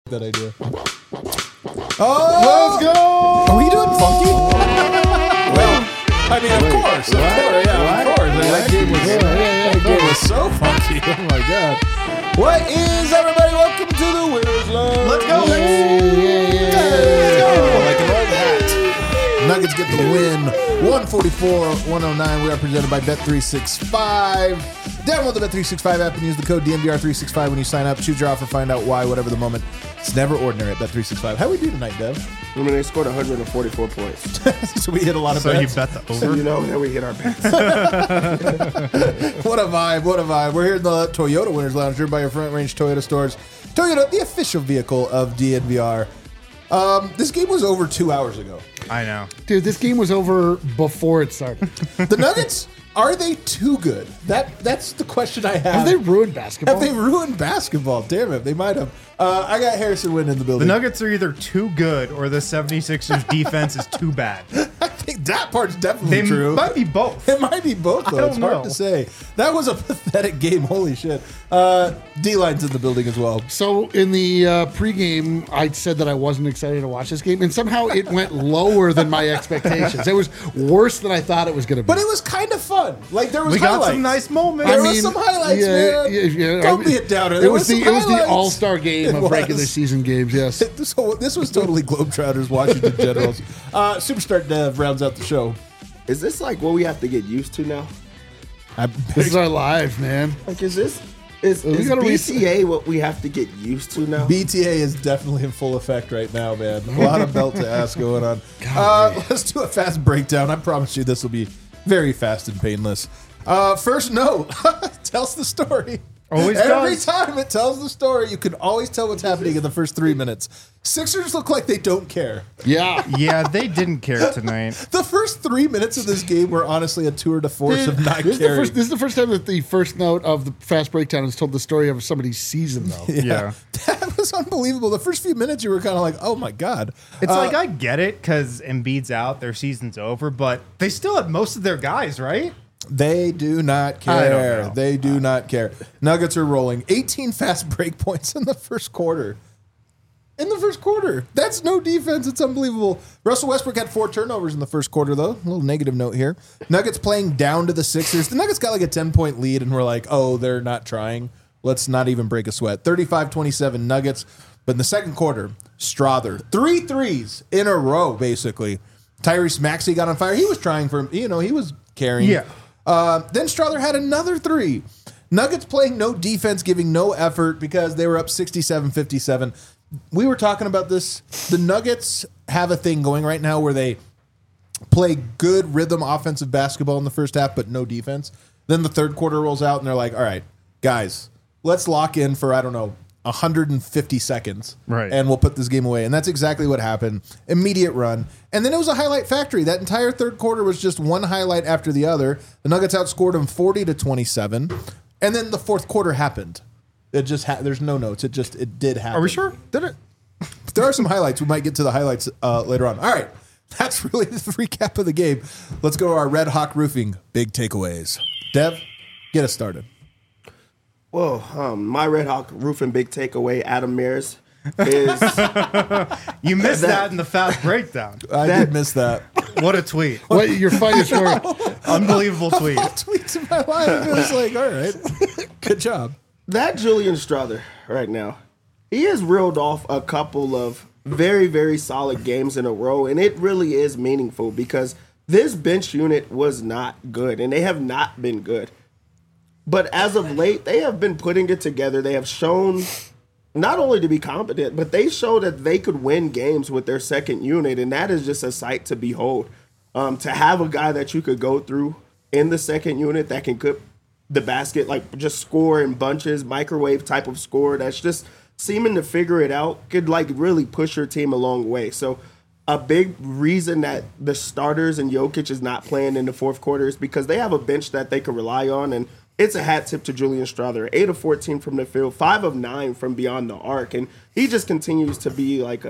that idea. Oh, let's go! Are we doing funky? Well, I mean, of course. Of course. That game was so funky. Oh my god! What is everybody? Welcome to the Winners Lounge. Let's go! Let's go! Like an old hat. Nuggets get the win. 144-109. We are presented by Bet365. Download the Bet365 app and use the code DNVR365 when you sign up. Choose your offer, find out why, whatever the moment. It's never ordinary at Bet365. How we do tonight, Dev? I mean, they scored 144 points. So we hit a lot of So bets. you bet the over? So you know that we hit our bets. What a vibe, what a vibe. We're here in the Toyota Winners Lounge, driven by your Front Range Toyota stores. Toyota, the official vehicle of DNVR. This game was over 2 hours ago. I know. Dude, this game was over before it started. The Nuggets, are they too good? That's the question I have. Have they ruined basketball? Have they ruined basketball? Damn it, they might have. I got Harrison Wind in the The building. Nuggets are either too good or the 76ers defense is too bad. I think that part's definitely They true. might be both. It might be both, though. I don't It's hard know. to say. That was a pathetic game. Holy shit. D-Line's in the building as well. So in the pregame, I said that I wasn't excited to watch this game, and somehow it went lower than my expectations. It was worse than I thought it was going to be. But it was kind of fun. Like, there was We got highlights. some nice moments. There was some highlights, man. Don't be a downer. It There was some the highlights. all-star game It of was. regular season games. Yes. So this was totally Globetrotters, Washington Generals. Superstar Dev rounds out the show. Is this like what we have to get used to now? This is our live, man. Like, is gotta BCA what we have to get used to now? BTA is definitely in full effect right now, man. A lot of belt to ass going on. Let's do a fast breakdown. I promise you this will be very fast and painless. First note, tells the story. Always Every does. time it tells the story, you can always tell what's happening in the first 3 minutes. Sixers look like they don't care. Yeah. Yeah, they didn't care tonight. The first 3 minutes of this game were honestly a tour de force of not This caring. is the first time that the first note of the fast breakdown has told the story of somebody's season, though. Yeah. That was unbelievable. The first few minutes, you were kind of like, oh my God. It's like, I get it because Embiid's out, their season's over, but they still have most of their guys, right? They do not I don't care. know. They do not care. Nuggets are rolling. 18 fast break points in the first quarter. In the first quarter. That's no defense. It's unbelievable. Russell Westbrook had 4 turnovers in the first quarter, though. A little negative note here. Nuggets playing down to the Sixers. The Nuggets got like a 10-point lead, and we're like, oh, they're not trying. Let's not even break a sweat. 35-27 Nuggets. But in the second quarter, Strother. 3 threes in a row, basically. Tyrese Maxey got on fire. He was trying for him. He was carrying. Yeah. Then Strother had another 3. Nuggets playing no defense, giving no effort because they were up 67-57. We were talking about this. The Nuggets have a thing going right now where they play good rhythm offensive basketball in the first half, but no defense. Then the third quarter rolls out and they're like, all right, guys, let's lock in for, 150 seconds. Right. And we'll put this game away. And that's exactly what happened. Immediate run. And then it was a highlight factory. That entire third quarter was just one highlight after the other. The Nuggets outscored them 40-27. And then the fourth quarter happened. It just there's no notes. It did happen. Are we sure? Did it? There are some highlights. We might get to the highlights later on. All right. That's really the recap of the game. Let's go to our Red Hawk Roofing big takeaways. Dev, get us started. Well, my Red Hawk roofing big takeaway, Adam Mears, is You missed that in the fast breakdown. I did miss that. What a tweet. What your finest work? Unbelievable tweet. Tweets in my life. It was like, all right. Good job. that Julian Strother right now. He has reeled off a couple of very, very solid games in a row, and it really is meaningful because this bench unit was not good, and they have not been good. But as of late, they have been putting it together. They have shown not only to be competent, but they show that they could win games with their second unit, and that is just a sight to behold. To have a guy that you could go through in the second unit that can cook the basket, like just score in bunches, microwave type of score, that's just seeming to figure it out, could like really push your team a long way. So a big reason that the starters and Jokic is not playing in the fourth quarter is because they have a bench that they can rely on, and it's a hat tip to Julian Strother. 8 of 14 from the field, 5 of 9 from beyond the arc, and he just continues to be like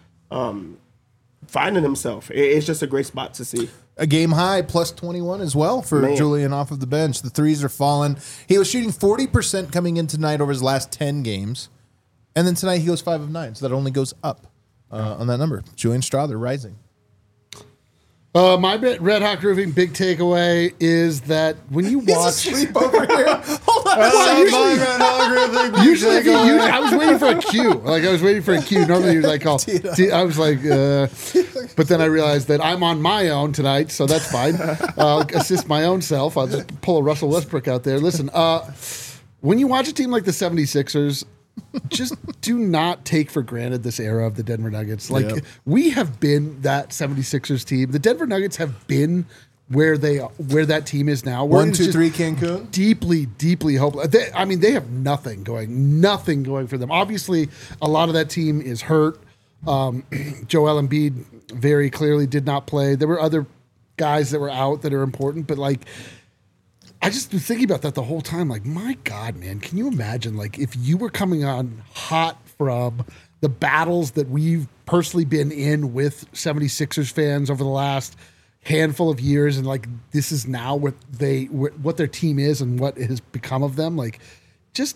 finding himself. It's just a great spot to see. A game high, plus 21 as well for Man. Julian off of the bench. The threes are falling. He was shooting 40% coming in tonight over his last 10 games. And then tonight he goes 5 of 9, so that only goes up on that number. Julian Strother rising. My Red Hawk Roofing big takeaway is that when you watch, Sleep over here. Hold on. usually I was waiting for a cue. Like I was waiting for a cue. Normally you're like, I was like, but then I realized that I'm on my own tonight, so that's fine. I'll assist my own self. I'll just pull a Russell Westbrook out there. Listen, when you watch a team like the 76ers, just do not take for granted this era of the Denver Nuggets. Like we have been that 76ers team. The Denver Nuggets have been where that team is now. 1, 2, 3 Cancun. Deeply hopeless. They have nothing going for them. Obviously, a lot of that team is hurt. Joel Embiid very clearly did not play. There were other guys that were out that are important, but like, I just was thinking about that the whole time. Like, my God, man, can you imagine, like, if you were coming on hot from the battles that we've personally been in with 76ers fans over the last handful of years, and, like, this is now what their team is and what has become of them. Like, just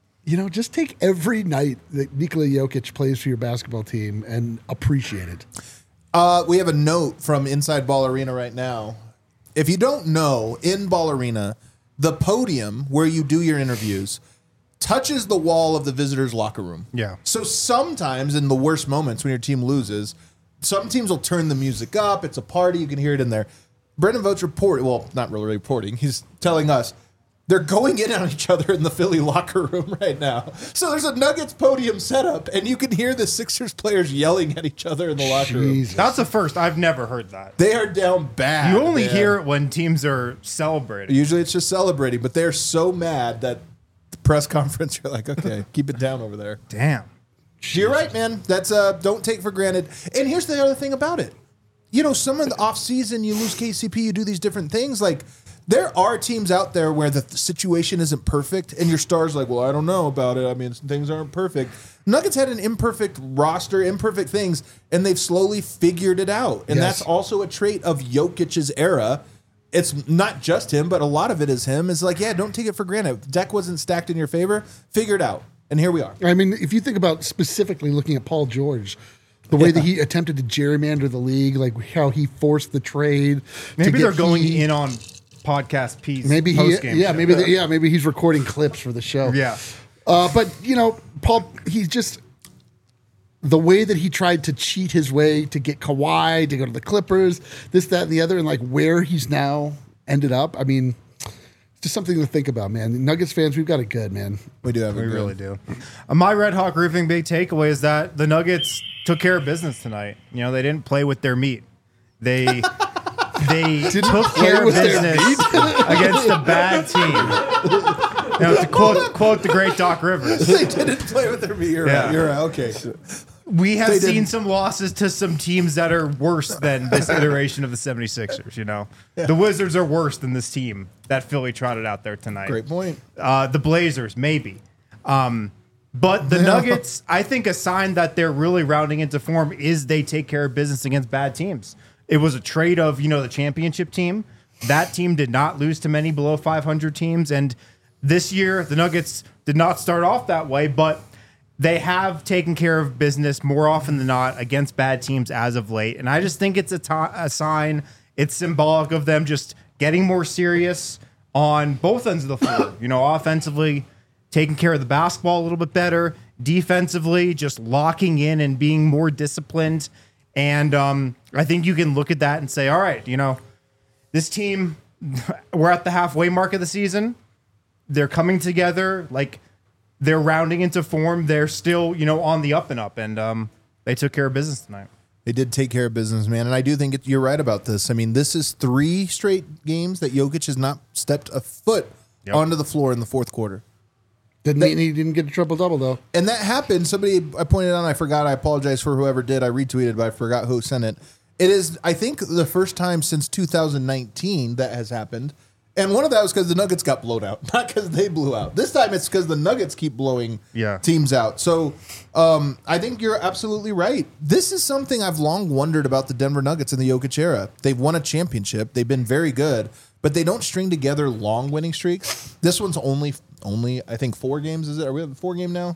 take every night that Nikola Jokic plays for your basketball team and appreciate it. We have a note from Inside Ball Arena right now. If you don't know, in Ball Arena, the podium where you do your interviews touches the wall of the visitors' locker room. Yeah. So sometimes in the worst moments when your team loses, some teams will turn the music up. It's a party. You can hear it in there. Brendan Vought's not really reporting. He's telling us they're going in on each other in the Philly locker room right now. So there's a Nuggets podium set up, and you can hear the Sixers players yelling at each other in the locker room. That's the first. I've never heard that. They are down bad. You only hear it when teams are celebrating. Usually it's just celebrating, but they're so mad that the press conference, you're like, okay, keep it down over there. Damn. You're right, man. That's don't take for granted. And here's the other thing about it. You know, some of the offseason, you lose KCP, you do these different things. Like, there are teams out there where the situation isn't perfect, and your star's like, well, I don't know about it. I mean, things aren't perfect. Nuggets had an imperfect roster, imperfect things, and they've slowly figured it out. And that's also a trait of Jokic's era. It's not just him, but a lot of it is him. It's like, yeah, don't take it for granted. Deck wasn't stacked in your favor. Figure it out. And here we are. I mean, if you think about specifically looking at Paul George, the way that he attempted to gerrymander the league, like how he forced the trade. Maybe they're going in on podcast piece. Maybe maybe he's recording clips for the show. Yeah. But you know, Paul, he's just the way that he tried to cheat his way to get Kawhi to go to the Clippers, this, that, and the other, and like where he's now ended up. I mean, it's just something to think about, man. Nuggets fans, we've got it good, man. We do have it. We really do. My Red Hawk Roofing big takeaway is that the Nuggets took care of business tonight. You know, they didn't play with their meat. They took care of business against a bad team. You know, to quote the great Doc Rivers. They didn't play with their meat. You're right. You're right. Okay. We have seen some losses to some teams that are worse than this iteration of the 76ers, you know. Yeah. The Wizards are worse than this team that Philly trotted out there tonight. Great point. The Blazers, maybe. But the Nuggets, I think a sign that they're really rounding into form is they take care of business against bad teams. It was a trade of, you know, the championship team. That team did not lose to many below 500 teams. And this year, the Nuggets did not start off that way, but they have taken care of business more often than not against bad teams as of late. And I just think it's a sign. It's symbolic of them just getting more serious on both ends of the floor. You know, offensively, taking care of the basketball a little bit better. Defensively, just locking in and being more disciplined. And I think you can look at that and say, all right, you know, this team, we're at the halfway mark of the season. They're coming together. Like, they're rounding into form. They're still, you know, on the up and up. And they took care of business tonight. They did take care of business, man. And I do think you're right about this. I mean, this is 3 straight games that Jokic has not stepped a foot onto the floor in the fourth quarter. He didn't get a triple-double, though. And that happened. I pointed out, I forgot. I apologize for whoever did. I retweeted, but I forgot who sent it. It is, I think, the first time since 2019 that has happened. And one of that was because the Nuggets got blown out, not because they blew out. This time it's because the Nuggets keep blowing teams out. So I think you're absolutely right. This is something I've long wondered about the Denver Nuggets in the Jokic era. They've won a championship. They've been very good, but they don't string together long winning streaks. This one's only I think 4 games. Is it? Are we at the 4 game now?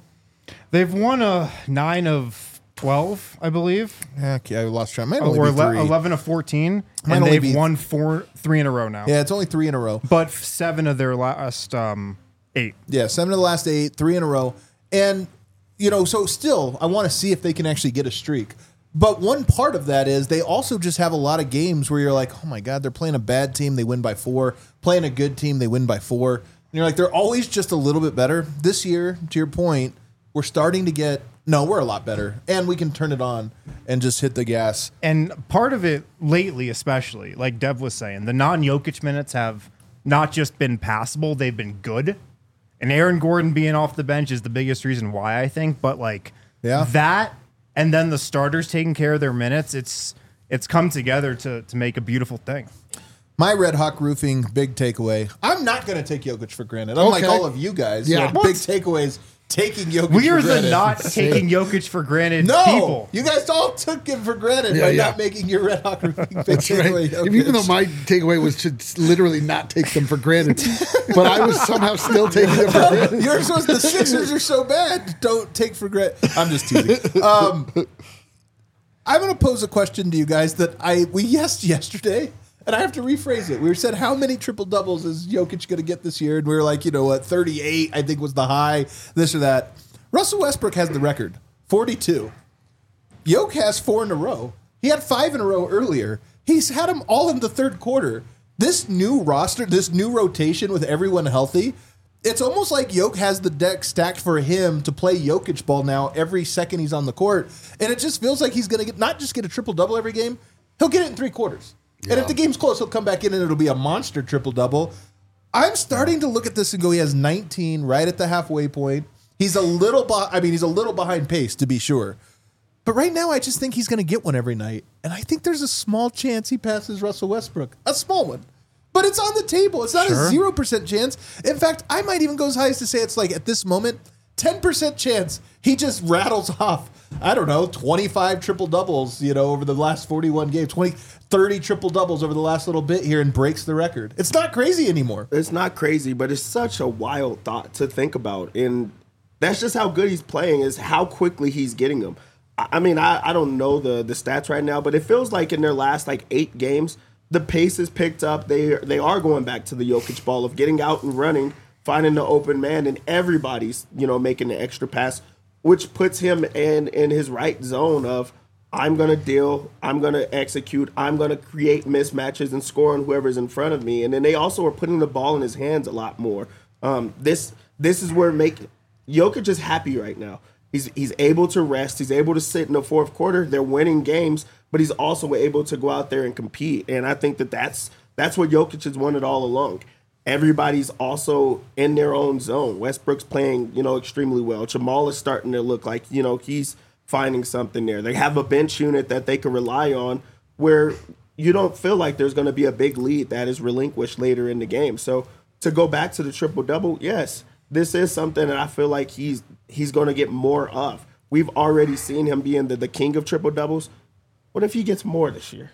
They've won 9 of 12, I believe. Okay, I lost track. Might Or only be 3. 11 of 14. Might And only they've be- won 3 in a row now. Yeah, it's only 3 in a row. But 7 of their last 8. Yeah, 7 of the last 8, 3 in a row. And, so still, I want to see if they can actually get a streak. But one part of that is they also just have a lot of games where you're like, oh my God, they're playing a bad team, they win by 4. Playing a good team, they win by 4. And you're like, they're always just a little bit better. This year, to your point, we're starting to get, we're a lot better. And we can turn it on and just hit the gas. And part of it lately, especially, like Dev was saying, the non-Jokic minutes have not just been passable, they've been good. And Aaron Gordon being off the bench is the biggest reason why, I think. But that and then the starters taking care of their minutes, it's come together to make a beautiful thing. My Red Hawk Roofing big takeaway. I'm not going to take Jokic for granted. Unlike all of you guys. Yeah. Big takeaways. Taking Jokic We are for granted. the not taking Jokic for granted No, people. you guys all took him for granted by not making your Red Hawk Roofing big That's right. takeaway. Jokic. Even though my takeaway was to literally not take them for granted, but I was somehow still taking them for granted. Yours was the Sixers are so bad. Don't take for granted. I'm just teasing. I'm going to pose a question to you guys that we guessed yesterday, and I have to rephrase it. We said, how many triple doubles is Jokic going to get this year? And we were like, 38, I think was the high, this or that. Russell Westbrook has the record, 42. Jokic has 4 in a row. He had 5 in a row earlier. He's had them all in the third quarter. This new roster, this new rotation with everyone healthy, it's almost like Jokic has the deck stacked for him to play Jokic ball now every second he's on the court. And it just feels like he's going to not just get a triple-double every game, he'll get it in 3 quarters. Yeah. And if the game's close, he'll come back in and it'll be a monster triple-double. I'm starting to look at this and go, he has 19 right at the halfway point. He's a little behind pace, to be sure. But right now, I just think he's going to get one every night. And I think there's a small chance he passes Russell Westbrook. A small one. But it's on the table. It's not a 0% chance. In fact, I might even go as high as to say it's like, at this moment, 10% chance he just rattles off, 25 triple-doubles, over the last 41 games, 30 triple-doubles over the last little bit here and breaks the record. It's not crazy anymore. It's not crazy, but it's such a wild thought to think about. And that's just how good he's playing, is how quickly he's getting them. I mean, I don't know the stats right now, but it feels like in their last 8 games, the pace is picked up. They are going back to the Jokic ball of getting out and running, finding the open man, and everybody's making the extra pass, which puts him in his right zone of, I'm going to deal, I'm going to execute, I'm going to create mismatches and score on whoever's in front of me. And then they also are putting the ball in his hands a lot more. This is where Jokic is happy right now. He's able to rest. He's able to sit in the fourth quarter. They're winning games, but he's also able to go out there and compete. And I think that's what Jokic has wanted all along. Everybody's also in their own zone. Westbrook's playing, extremely well. Jamal is starting to look like, he's finding something there. They have a bench unit that they can rely on where you don't feel like there's going to be a big lead that is relinquished later in the game. So to go back to the triple-double, yes, this is something that I feel like he's going to get more of. We've already seen him being the king of triple-doubles. What if he gets more this year?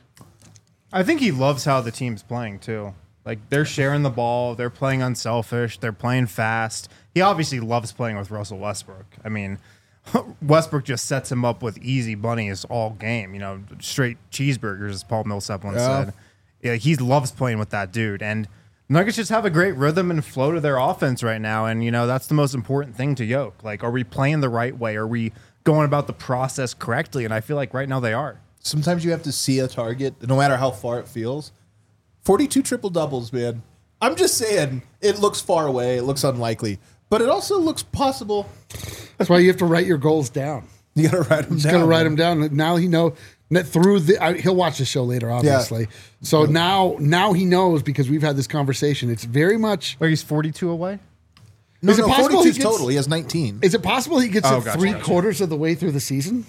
I think he loves how the team's playing, too. They're sharing the ball. They're playing unselfish. They're playing fast. He obviously loves playing with Russell Westbrook. I mean, Westbrook just sets him up with easy bunnies all game. Straight cheeseburgers, as Paul Millsap once said. Yeah, he loves playing with that dude. And Nuggets just have a great rhythm and flow to their offense right now. And, that's the most important thing to Jokic. Are we playing the right way? Are we going about the process correctly? And I feel like right now they are. Sometimes you have to see a target, no matter how far it feels. 42 triple-doubles, man. I'm just saying, it looks far away. It looks unlikely. But it also looks possible. That's why you have to write your goals down. You got to write them down. He's got to write them down. Now he knows. He'll watch the show later, obviously. Yeah. So now he knows, because we've had this conversation. It's very much. He's 42 away? No, 42 total. He has 19. Is it possible he gets it 3/4 of the way through the season?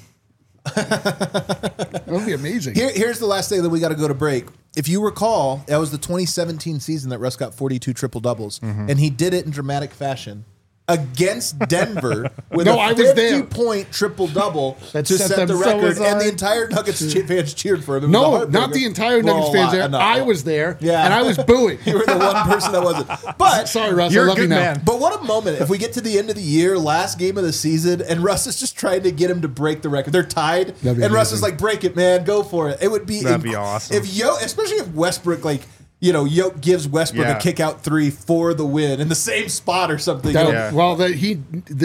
That would be amazing. Here's the last thing that we got to go to break. If you recall, that was the 2017 season that Russ got 42 triple-doubles, and he did it in dramatic fashion. against Denver with No, a I was there. 50-point triple-double That to set set them- the so record, was I. and the entire Nuggets fans cheered for him. It was a No, heartbreaker. not the entire Well, Nuggets a fans lot- there. no, I was there, Yeah. and I was booing. You were the one person that wasn't. But Sorry, Russ. You're I a love you good now. man. But what a moment if we get to the end of the year, last game of the season, and Russ is just trying to get him to break the record. They're tied, That'd be and Russ is amazing. like, break it, man, go for it. It would be That'd be awesome. If especially if Westbrook, like, Yoke gives Westbrook Yeah. a kick out 3 for the win in the same spot or something. That- Yeah. Well, he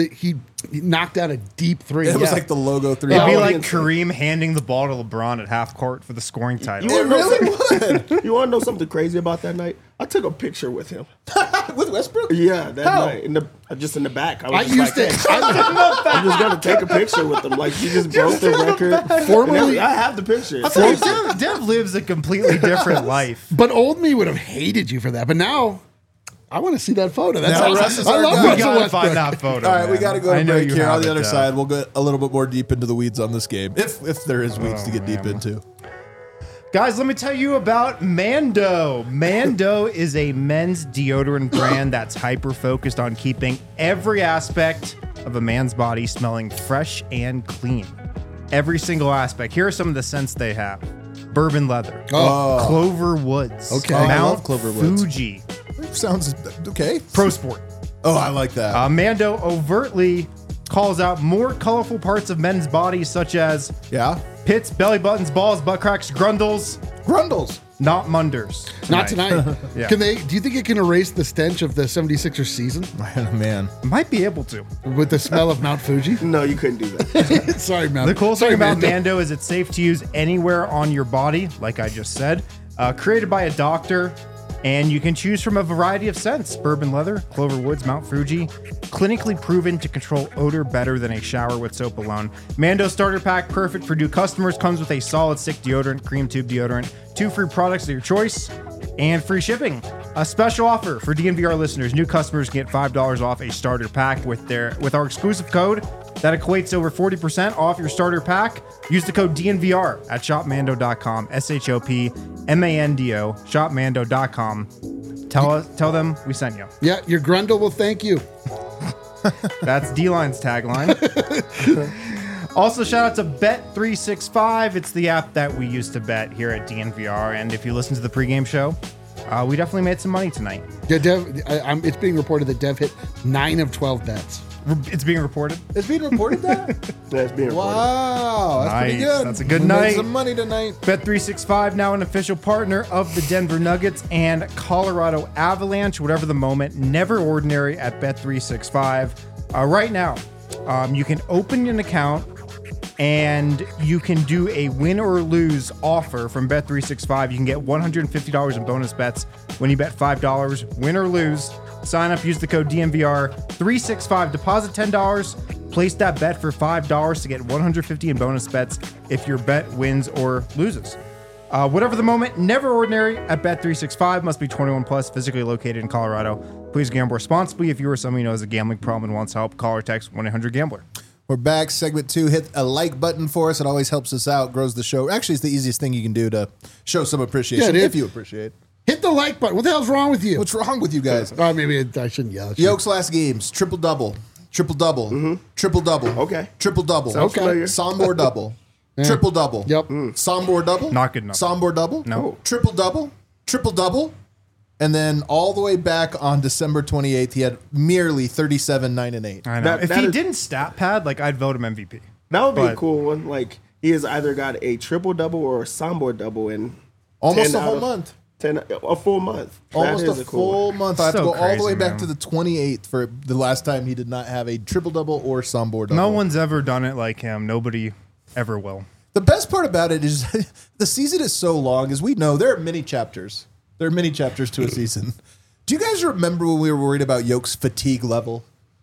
knocked out a deep three. It was Yeah. like the logo 3. It'd be Yeah. like Audience. Kareem handing the ball to LeBron at half court for the scoring title. It really would. You want to know something crazy about that night? I took a picture with him. With Westbrook? Yeah, that How? night. Just in the back. I was used just it. I'm just going to take a picture with him. Like, he just broke the record. Formerly- I have the picture. Dev lives a completely different life. But old me would have hated you for that. But now, I want to see that photo. That's Now awesome. Russ is I our love guy. We Russell gotta Westbrook. find that photo. All right, we man. got to go I to know break you here. have On the it, other Dev. side, we'll get a little bit more deep into the weeds on this game, if there is weeds to get deep into. Guys, let me tell you about Mando. Mando is a men's deodorant brand that's hyper focused on keeping every aspect of a man's body smelling fresh and clean. Every single aspect. Here are some of the scents they have: bourbon leather, Clover Woods, Okay. Oh, I Mount love Clover Woods. Fuji, Sounds okay. Pro Sport. Oh, I like that. Mando overtly calls out more colorful parts of men's bodies, such as Yeah. pits, belly buttons, balls, butt cracks, grundles, Grundles. not munders. Not tonight. Yeah. Do you think it can erase the stench of the 76ers season Man. Might be able to. with the smell of Mount Fuji? No, you couldn't do that. Sorry, Mount. The cool Sorry, thing about Mando. Mando is it's safe to use anywhere on your body, like I just said. Created by a doctor, and you can choose from a variety of scents: bourbon leather, Clover Woods, Mount Fuji. Clinically proven to control odor better than a shower with soap alone. Mando starter pack, perfect for new customers, comes with a solid stick deodorant, cream tube deodorant, 2 free products of your choice, and free shipping. A special offer for DNVR listeners: new customers get $5 off a starter pack with our exclusive code. That equates to over 40% off your starter pack. Use the code DNVR at shopmando.com, SHOPMANDO, shopmando.com. Tell them we sent you. Yeah, your Grundle will thank you. That's D-Line's tagline. Also, shout out to Bet365. It's the app that we use to bet here at DNVR. And if you listen to the pregame show, we definitely made some money tonight. Yeah, Dev. It's being reported that Dev hit 9 of 12 bets. It's being reported. It's being reported that? That's being reported. Wow. That's pretty Nice. good. That's a good We made night. some money tonight. Bet365, now an official partner of the Denver Nuggets and Colorado Avalanche. Whatever the moment, never ordinary at Bet365. Right now, you can open an account and you can do a win or lose offer from Bet365. You can get $150 in bonus bets when you bet $5, win or lose. Sign up, use the code DNVR365, deposit $10, place that bet for $5 to get $150 in bonus bets if your bet wins or loses. Whatever the moment, never ordinary at Bet365. Must be 21 plus, physically located in Colorado. Please gamble responsibly. If you or someone you know has a gambling problem and wants help, call or text 1-800-GAMBLER. We're back. Segment 2. Hit a like button for us. It always helps us out, grows the show. Actually, it's the easiest thing you can do to show some appreciation, Yeah, it is. if you appreciate. Hit the like button. What the hell's wrong with you? What's wrong with you guys? Oh, maybe I shouldn't yell at you. Yoke's last games, triple-double, triple-double, triple-double. Okay. Triple-double. Sounds familiar. Sombor double. Triple-double. Yep. Sombor double. Not good enough. Sombor double. No. Triple-double. Triple-double. And then all the way back on December 28th, he had merely 37, 9, and 8. I know. That- if that he is- didn't stat pad, I'd vote him MVP. That would be a But- cool one. Like, he has either got a triple double or a Sombor double in Almost 10 a whole out of- month. 10, a full month. Almost That a is cool full one. month. I have to So go all the way crazy, back man. to the 28th for the last time he did not have a triple-double or Sombor double. No one's ever done it like him. Nobody ever will. The best part about it is the season is so long. As we know, there are many chapters. There are many chapters to a season. Do you guys remember when we were worried about Yoke's fatigue level?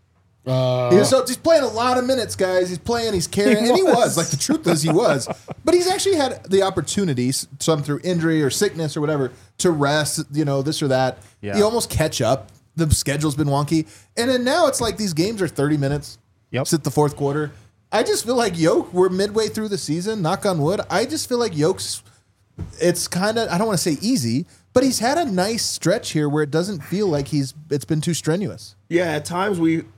He's playing a lot of minutes, guys. He's playing, he's carrying, and he was. Like, the truth is he was. But he's actually had the opportunities, some through injury or sickness or whatever, to rest, this or that. Yeah. You almost catch up. The schedule's been wonky. And then now it's like these games are 30 minutes. Yep. Sit the fourth quarter. I just feel like Yoke, we're midway through the season, knock on wood. I just feel like Yoke's, it's kind of, I don't want to say easy, but he's had a nice stretch here where it doesn't feel like it's been too strenuous. Yeah, at times we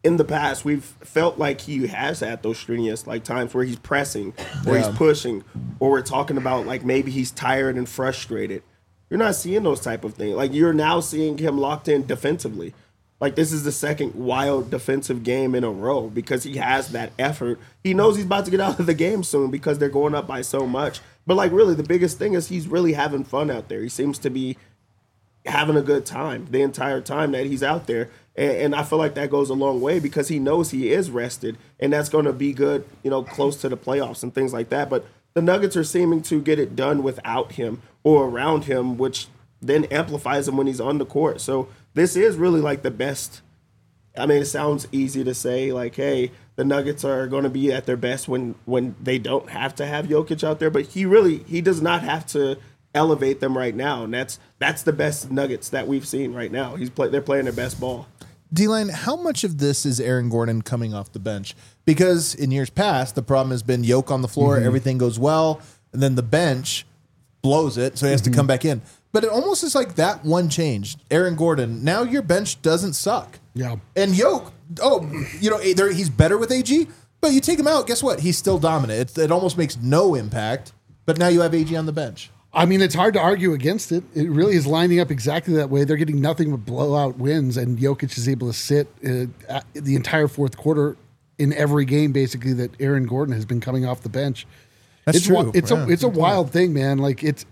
in the past, we've felt like he has had those strenuous like times where he's pressing, or he's pushing, or we're talking about like maybe he's tired and frustrated. You're not seeing those type of things. Like you're now seeing him locked in defensively. Like this is the second wild defensive game in a row because he has that effort. He knows he's about to get out of the game soon because they're going up by so much. But like really, the biggest thing is he's really having fun out there. He seems to be having a good time the entire time that he's out there. And I feel like that goes a long way because he knows he is rested, and that's going to be good, close to the playoffs and things like that. But the Nuggets are seeming to get it done without him or around him, which then amplifies him when he's on the court. So this is really like the best. I mean, it sounds easy to say like, hey, the Nuggets are going to be at their best when they don't have to have Jokic out there, but he does not have to elevate them right now, and that's the best Nuggets that we've seen right now. They're playing their best ball. D-Line, how much of this is Aaron Gordon coming off the bench? Because in years past, the problem has been Jokic on the floor, everything goes well, and then the bench blows it, so he has to come back in. But it almost is like that one change. Aaron Gordon, now your bench doesn't suck. Yeah. And Jokic, he's better with AG, but you take him out, guess what? He's still dominant. It almost makes no impact, but now you have AG on the bench. I mean, it's hard to argue against it. It really is lining up exactly that way. They're getting nothing but blowout wins, and Jokic is able to sit the entire fourth quarter in every game, basically, that Aaron Gordon has been coming off the bench. That's true. It's a wild thing, man. Like it's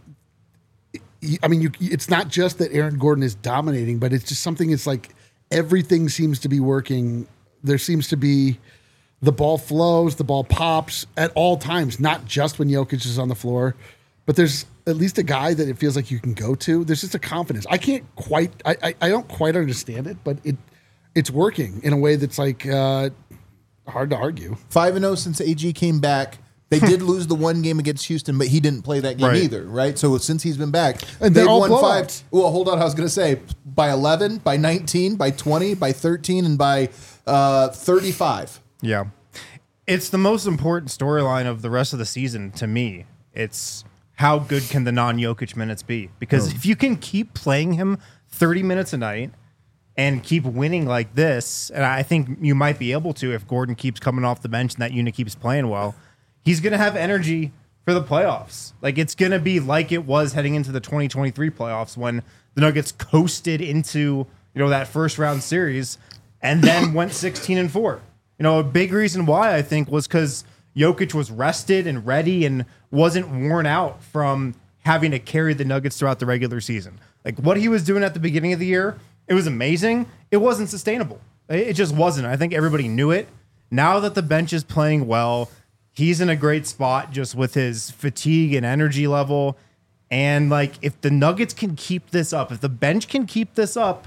not just that Aaron Gordon is dominating, but it's just something. It's like everything seems to be working. There seems to be the ball flows, the ball pops at all times, not just when Jokic is on the floor. But there's at least a guy that it feels like you can go to. There's just a confidence. I don't quite understand it, but it's working in a way that's like hard to argue. 5-0 since AG came back. They did lose the one game against Houston, but he didn't play that game either, right? So since he's been back, and they've all won blowouts. 5. Well, hold on. I was going to say by 11, by 19, by 20, by 13, and by 35. Yeah. It's the most important storyline of the rest of the season to me. It's how good can the non-Jokic minutes be? Because if you can keep playing him 30 minutes a night and keep winning like this, and I think you might be able to if Gordon keeps coming off the bench and that unit keeps playing well, he's going to have energy for the playoffs. Like it's going to be like it was heading into the 2023 playoffs when the Nuggets coasted into, that first round series and then went 16-4. A big reason why I think was because Jokic was rested and ready and wasn't worn out from having to carry the Nuggets throughout the regular season. Like what he was doing at the beginning of the year, it was amazing. It wasn't sustainable. It just wasn't. I think everybody knew it. Now that the bench is playing well, he's in a great spot just with his fatigue and energy level. And like if the Nuggets can keep this up, if the bench can keep this up,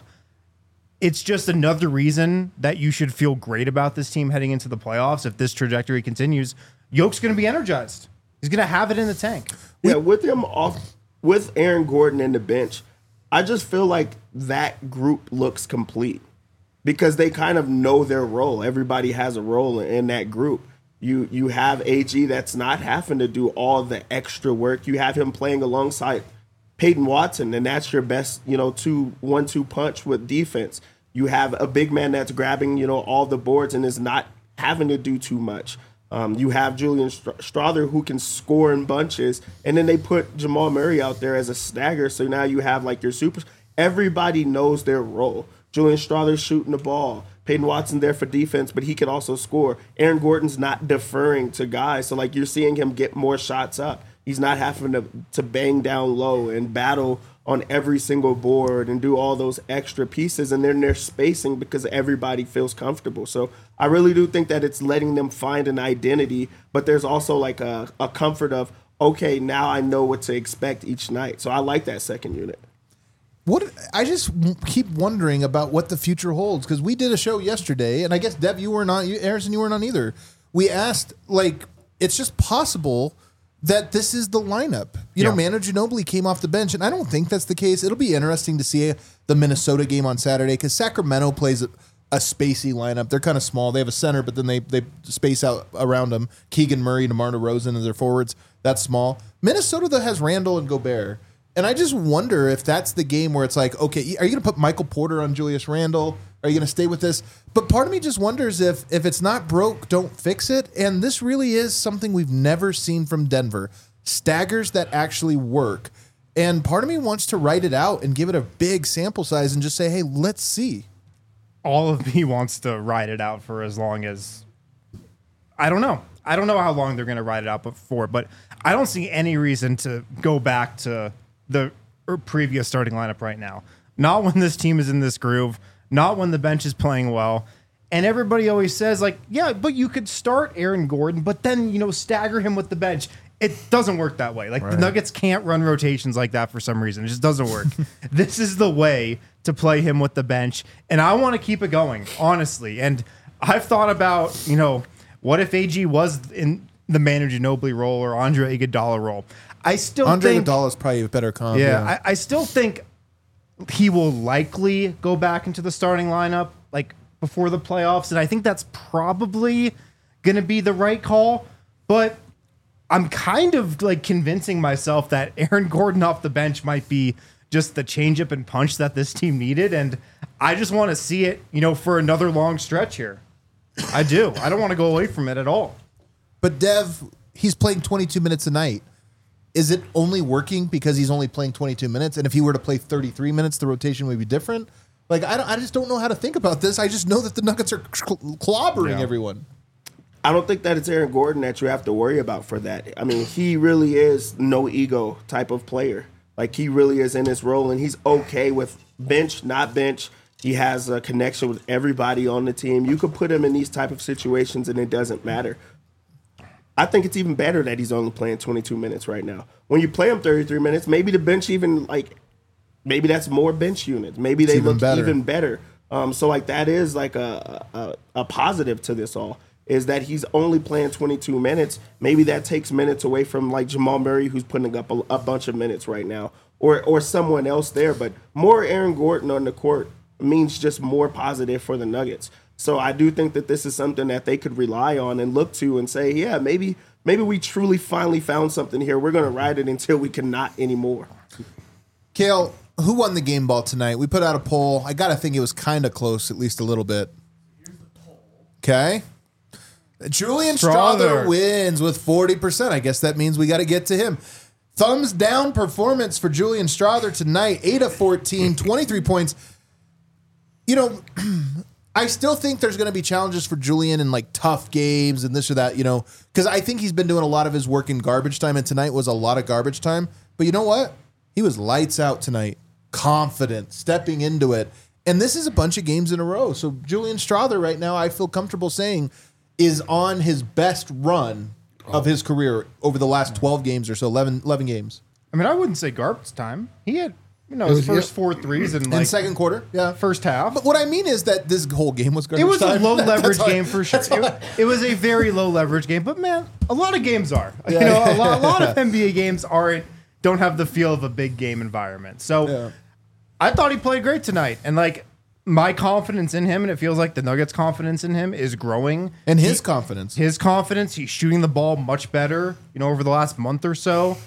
it's just another reason that you should feel great about this team heading into the playoffs. If this trajectory continues, Jokic's going to be energized. He's going to have it in the tank. Yeah, with him off, with Aaron Gordon in the bench, I just feel like that group looks complete because they kind of know their role. Everybody has a role in that group. You have AG that's not having to do all the extra work. You have him playing alongside Peyton Watson, and that's your best, 2-1-2 punch with defense. You have a big man that's grabbing, all the boards and is not having to do too much. You have Julian Strawther who can score in bunches, and then they put Jamal Murray out there as a stagger. So now you have like your super. Everybody knows their role. Julian Strawther's shooting the ball. Peyton Watson there for defense, but he can also score. Aaron Gordon's not deferring to guys, so like you're seeing him get more shots up. He's not having to bang down low and battle on every single board and do all those extra pieces, and then they're spacing because everybody feels comfortable. So I really do think that it's letting them find an identity, but there's also like a comfort of, okay, now I know what to expect each night. So I like that second unit. I just keep wondering about what the future holds because we did a show yesterday, and I guess Dev, you weren't on, Harrison, you weren't on either. We asked, it's just possible that this is the lineup. Manu Ginobili came off the bench, and I don't think that's the case. It'll be interesting to see the Minnesota game on Saturday because Sacramento plays a spacey lineup. They're kind of small. They have a center, but then they space out around them. Keegan Murray, DeMar DeRozan as their forwards. That's small. Minnesota, though, has Randall and Gobert. And I just wonder if that's the game where it's like, okay, are you going to put Michael Porter on Julius Randle? Are you going to stay with this? But part of me just wonders if it's not broke, don't fix it. And this really is something we've never seen from Denver. Staggers that actually work. And part of me wants to write it out and give it a big sample size and just say, hey, let's see. All of me wants to ride it out for as long as, I don't know. I don't know how long they're going to ride it out for, but I don't see any reason to go back to the previous starting lineup right now. Not when this team is in this groove, not when the bench is playing well. And everybody always says, like, yeah, but you could start Aaron Gordon, but then, stagger him with the bench. It doesn't work that way. Like, the Nuggets can't run rotations like that for some reason. It just doesn't work. This is the way to play him with the bench. And I want to keep it going, honestly. And I've thought about, what if AG was in the Manu Ginobili role or Andre Iguodala role? I still Andre think Iguodala is probably a better comp. Yeah, I still think he will likely go back into the starting lineup like before the playoffs, and I think that's probably going to be the right call. But I'm kind of like convincing myself that Aaron Gordon off the bench might be just the changeup and punch that this team needed, and I just want to see it, for another long stretch here. I do. I don't want to go away from it at all. But Dev, he's playing 22 minutes a night. Is it only working because he's only playing 22 minutes? And if he were to play 33 minutes, the rotation would be different? Like, I just don't know how to think about this. I just know that the Nuggets are clobbering everyone. I don't think that it's Aaron Gordon that you have to worry about for that. I mean, he really is no ego type of player. Like, he really is in his role, and he's okay with bench, not bench. He has a connection with everybody on the team. You could put him in these type of situations, and it doesn't matter. I think it's even better that he's only playing 22 minutes right now. When you play him 33 minutes, maybe the bench even, maybe that's more bench units. Maybe they look even better. So, that is, a positive to this all, is that he's only playing 22 minutes. Maybe that takes minutes away from, Jamal Murray, who's putting up a bunch of minutes right now, or someone else there. But more Aaron Gordon on the court means just more positive for the Nuggets. So I do think that this is something that they could rely on and look to and say, yeah, maybe we truly finally found something here. We're going to ride it until we cannot anymore. Kale, who won the game ball tonight? We put out a poll. I got to think it was kind of close, at least a little bit. Okay. Julian Strawther wins with 40%. I guess that means we got to get to him. Thumbs down performance for Julian Strawther tonight. 8 of 14, 23 points. I still think there's going to be challenges for Julian in tough games and this or that, because I think he's been doing a lot of his work in garbage time, and tonight was a lot of garbage time. But you know what? He was lights out tonight, confident, stepping into it. And this is a bunch of games in a row. So Julian Strawther right now, I feel comfortable saying, is on his best run of his career over the last 12 games or so, 11 games. I mean, I wouldn't say garbage time. He had his first 4 threes in second quarter, first half. But what I mean is that this whole game was garbage time. It was time. a low leverage game for sure. It was a very low leverage game. But man, a lot of games are. A lot of NBA games don't have the feel of a big game environment. So I thought he played great tonight, and my confidence in him, and it feels like the Nuggets' confidence in him is growing. And his confidence, he's shooting the ball much better. Over the last month or so.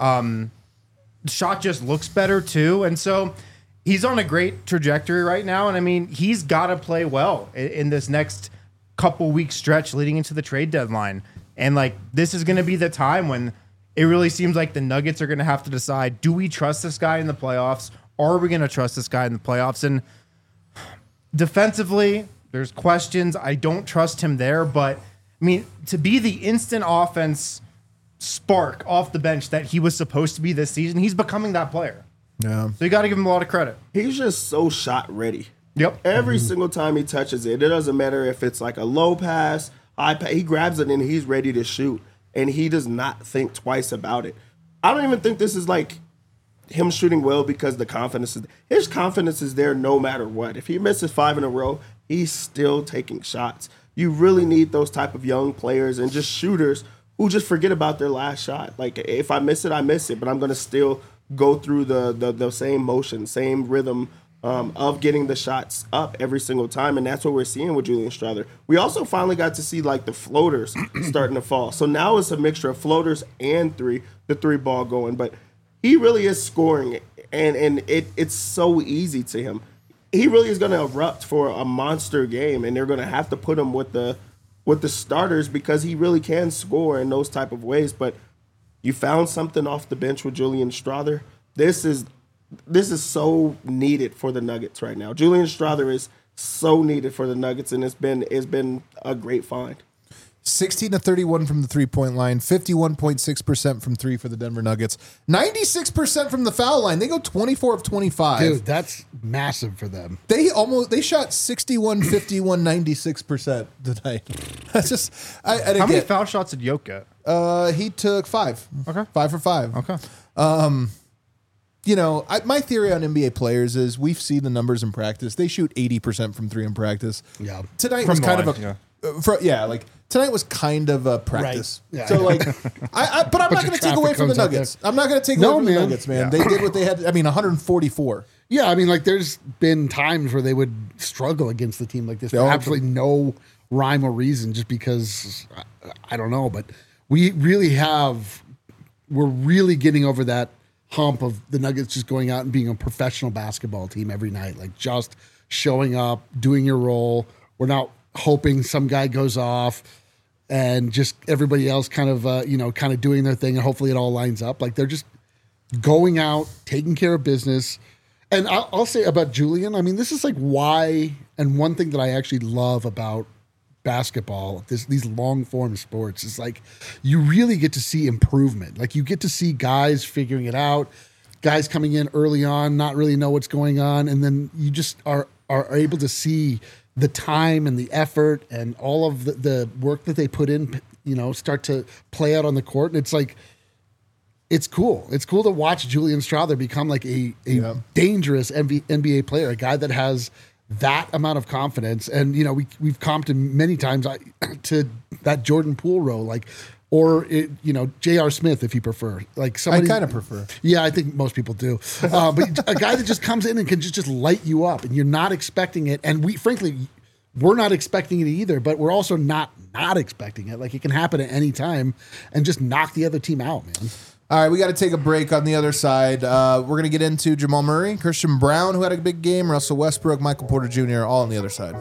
The shot just looks better too, and so he's on a great trajectory right now. And I mean, he's got to play well in this next couple week stretch leading into the trade deadline. And this is going to be the time when it really seems like the Nuggets are going to have to decide: do we trust this guy in the playoffs? Are we going to trust this guy in the playoffs? And defensively, there's questions. I don't trust him there, but I mean, to be the instant offense spark off the bench that he was supposed to be this season, he's becoming that player. Yeah. So you got to give him a lot of credit. He's just so shot ready. Yep. Every single time he touches it, it doesn't matter if it's a low pass, high pass, he grabs it and he's ready to shoot. And he does not think twice about it. I don't even think this is him shooting well because his confidence is there no matter what. If he misses 5 in a row, he's still taking shots. You really need those type of young players and just shooters who just forget about their last shot. If I miss it, I miss it, but I'm going to still go through the same motion, same rhythm of getting the shots up every single time, and that's what we're seeing with Julian Strawther. We also finally got to see the floaters starting to fall. So now it's a mixture of floaters and the three ball going, but he really is scoring, and it's so easy to him. He really is going to erupt for a monster game, and they're going to have to put him with the starters because he really can score in those type of ways. But you found something off the bench with Julian Strawther. This is so needed for the Nuggets right now. Julian Strawther is so needed for the Nuggets, and it's been a great find. 16-31 from the 3-point line, 51.6% from three for the Denver Nuggets, 96% from the foul line. They go 24 of 25. Dude, that's massive for them. They shot 61, 51, 96% tonight. That's just How many foul shots did Jokic get? He took 5. Okay. 5 for 5. Okay. My theory on NBA players is we've seen the numbers in practice. They shoot 80% from 3 in practice. Yeah. Tonight From was the kind line, of like tonight was kind of a practice. Right. Yeah. So like, but I'm not going to take away from the Nuggets. I'm not going to take away from the Nuggets, man. Yeah. They did what they had. 144. Yeah, I mean, like, there's been times where they would struggle against the team like this for absolutely no rhyme or reason, just because, I don't know, but we're really getting over that hump of the Nuggets just going out and being a professional basketball team every night, like just showing up, doing your role. We're not hoping some guy goes off and just everybody else kind of doing their thing, and hopefully it all lines up. Like, they're just going out, taking care of business. And I'll say about Julian, I mean, this is like why, and one thing that I actually love about basketball, these long form sports, is like you really get to see improvement. Like, you get to see guys figuring it out, guys coming in early on, not really know what's going on, and then you just are able to see the time and the effort and all of the work that they put in, start to play out on the court. And it's like, it's cool. It's cool to watch Julian Strawther become like a dangerous NBA player, a guy that has that amount of confidence. And, we've comped him many times to that Jordan Poole role, or J.R. Smith, if you prefer. Like, somebody, I kind of prefer. Yeah, I think most people do. But a guy that just comes in and can just light you up, and you're not expecting it. And we're not expecting it either, but we're also not expecting it. Like, it can happen at any time and just knock the other team out, man. All right, we got to take a break on the other side. We're going to get into Jamal Murray, Christian Brown, who had a big game, Russell Westbrook, Michael Porter Jr., all on the other side.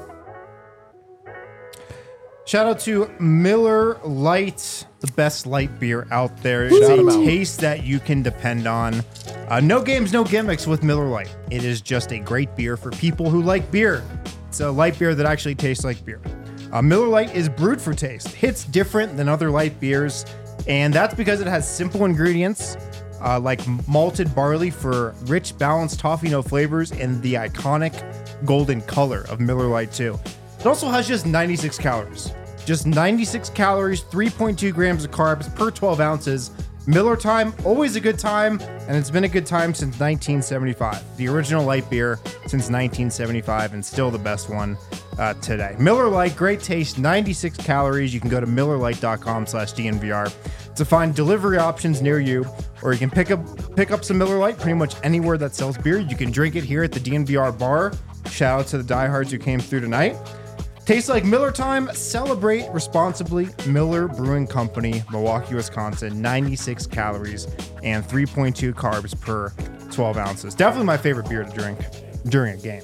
Shout out to Miller Lite, the best light beer out there. It's a taste that you can depend on. No games, no gimmicks with Miller Lite. It is just a great beer for people who like beer. It's a light beer that actually tastes like beer. Miller Lite is brewed for taste. Hits different than other light beers, and that's because it has simple ingredients like malted barley for rich, balanced toffee note flavors and the iconic golden color of Miller Lite too. It also has just 96 calories. Just 96 calories, 3.2 grams of carbs per 12 ounces. Miller Time, always a good time, and it's been a good time since 1975. The original light beer since 1975, and still the best one today. Miller Lite, great taste, 96 calories. You can go to MillerLite.com/DNVR to find delivery options near you, or you can pick up some Miller Lite pretty much anywhere that sells beer. You can drink it here at the DNVR bar. Shout out to the diehards who came through tonight. Tastes like Miller Time. Celebrate responsibly. Miller Brewing Company, Milwaukee, Wisconsin. 96 calories and 3.2 carbs per 12 ounces. Definitely my favorite beer to drink during a game.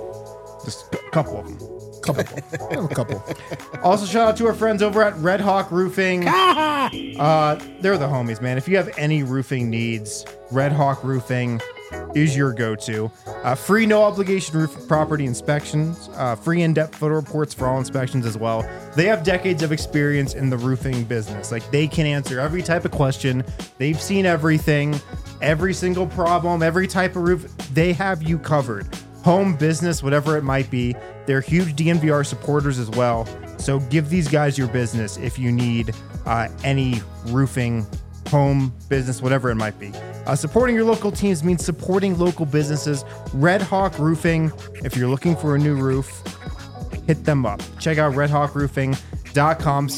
Just a couple of them. A couple. Also, shout out to our friends over at Red Hawk Roofing. They're the homies, man. If you have any roofing needs, Red Hawk Roofing is your go-to. Free no obligation roof property inspections, free in-depth photo reports for all inspections as well. They have decades of experience in the roofing business. Like, they can answer every type of question. They've seen everything, every single problem, every type of roof. They have you covered. Home, business, whatever it might be. They're huge DNVR supporters as well. So give these guys your business if you need any roofing, home, business, whatever it might be. Supporting your local teams means supporting local businesses. Red Hawk Roofing, if you're looking for a new roof, hit them up. Check out redhawkroofing.com,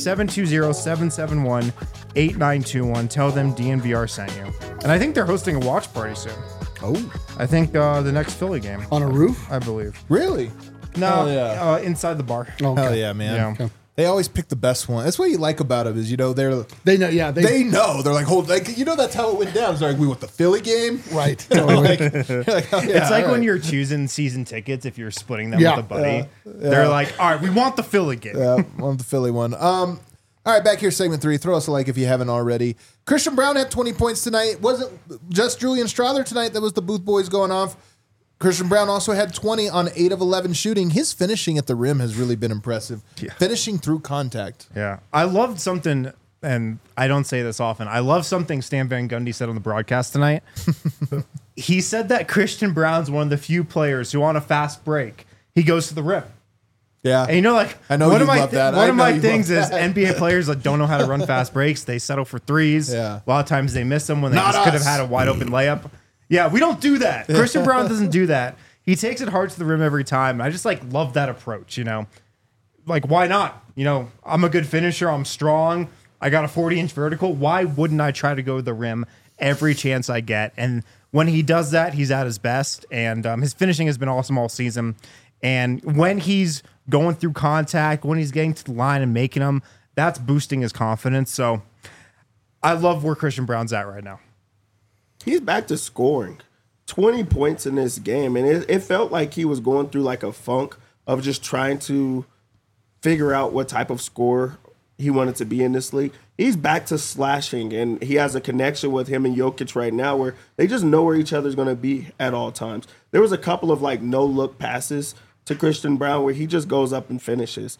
720-771-8921. Tell them DNVR sent you. And I think they're hosting a watch party soon. Oh. I think the next Philly game. On a roof? I believe. Really? No, Hell yeah. Inside the bar. Oh, okay. Hell yeah, man. Yeah. Okay. They always pick the best one. That's what you like about them is, they know. Yeah, they know. They're like, that's how it went down. It's like, we want the Philly game. right. Totally. You're like, oh, yeah, It's like all when right. you're choosing season tickets, if you're splitting them Yeah. with a buddy. They're like, all right, we want the Philly game. Yeah, want the Philly one. All right, back here, segment 3. Throw us a like if you haven't already. Christian Brown had 20 points tonight. Wasn't just Julian Strother tonight that was the Booth Boys going off. Christian Brown also had 20 on 8 of 11 shooting. His finishing at the rim has really been impressive. Yeah. Finishing through contact. Yeah. I loved something, and I don't say this often. I love something Stan Van Gundy said on the broadcast tonight. He said that Christian Brown's one of the few players who on a fast break, he goes to the rim. Yeah. And I know one you of my love that. one I of know my you things love is that. NBA players that don't know how to run fast breaks. They settle for threes. Yeah. A lot of times they miss them when they Not just could have us. had a wide open layup. Yeah, we don't do that. Christian Brown doesn't do that. He takes it hard to the rim every time. I just love that approach, Like, why not? I'm a good finisher. I'm strong. I got a 40-inch vertical. Why wouldn't I try to go to the rim every chance I get? And when he does that, he's at his best. And his finishing has been awesome all season. And when he's going through contact, when he's getting to the line and making them, that's boosting his confidence. So I love where Christian Brown's at right now. He's back to scoring 20 points in this game. And it felt like he was going through like a funk of just trying to figure out what type of scorer he wanted to be in this league. He's back to slashing, and he has a connection with him and Jokic right now where they just know where each other's going to be at all times. There was a couple of no-look passes to Christian Brown where he just goes up and finishes.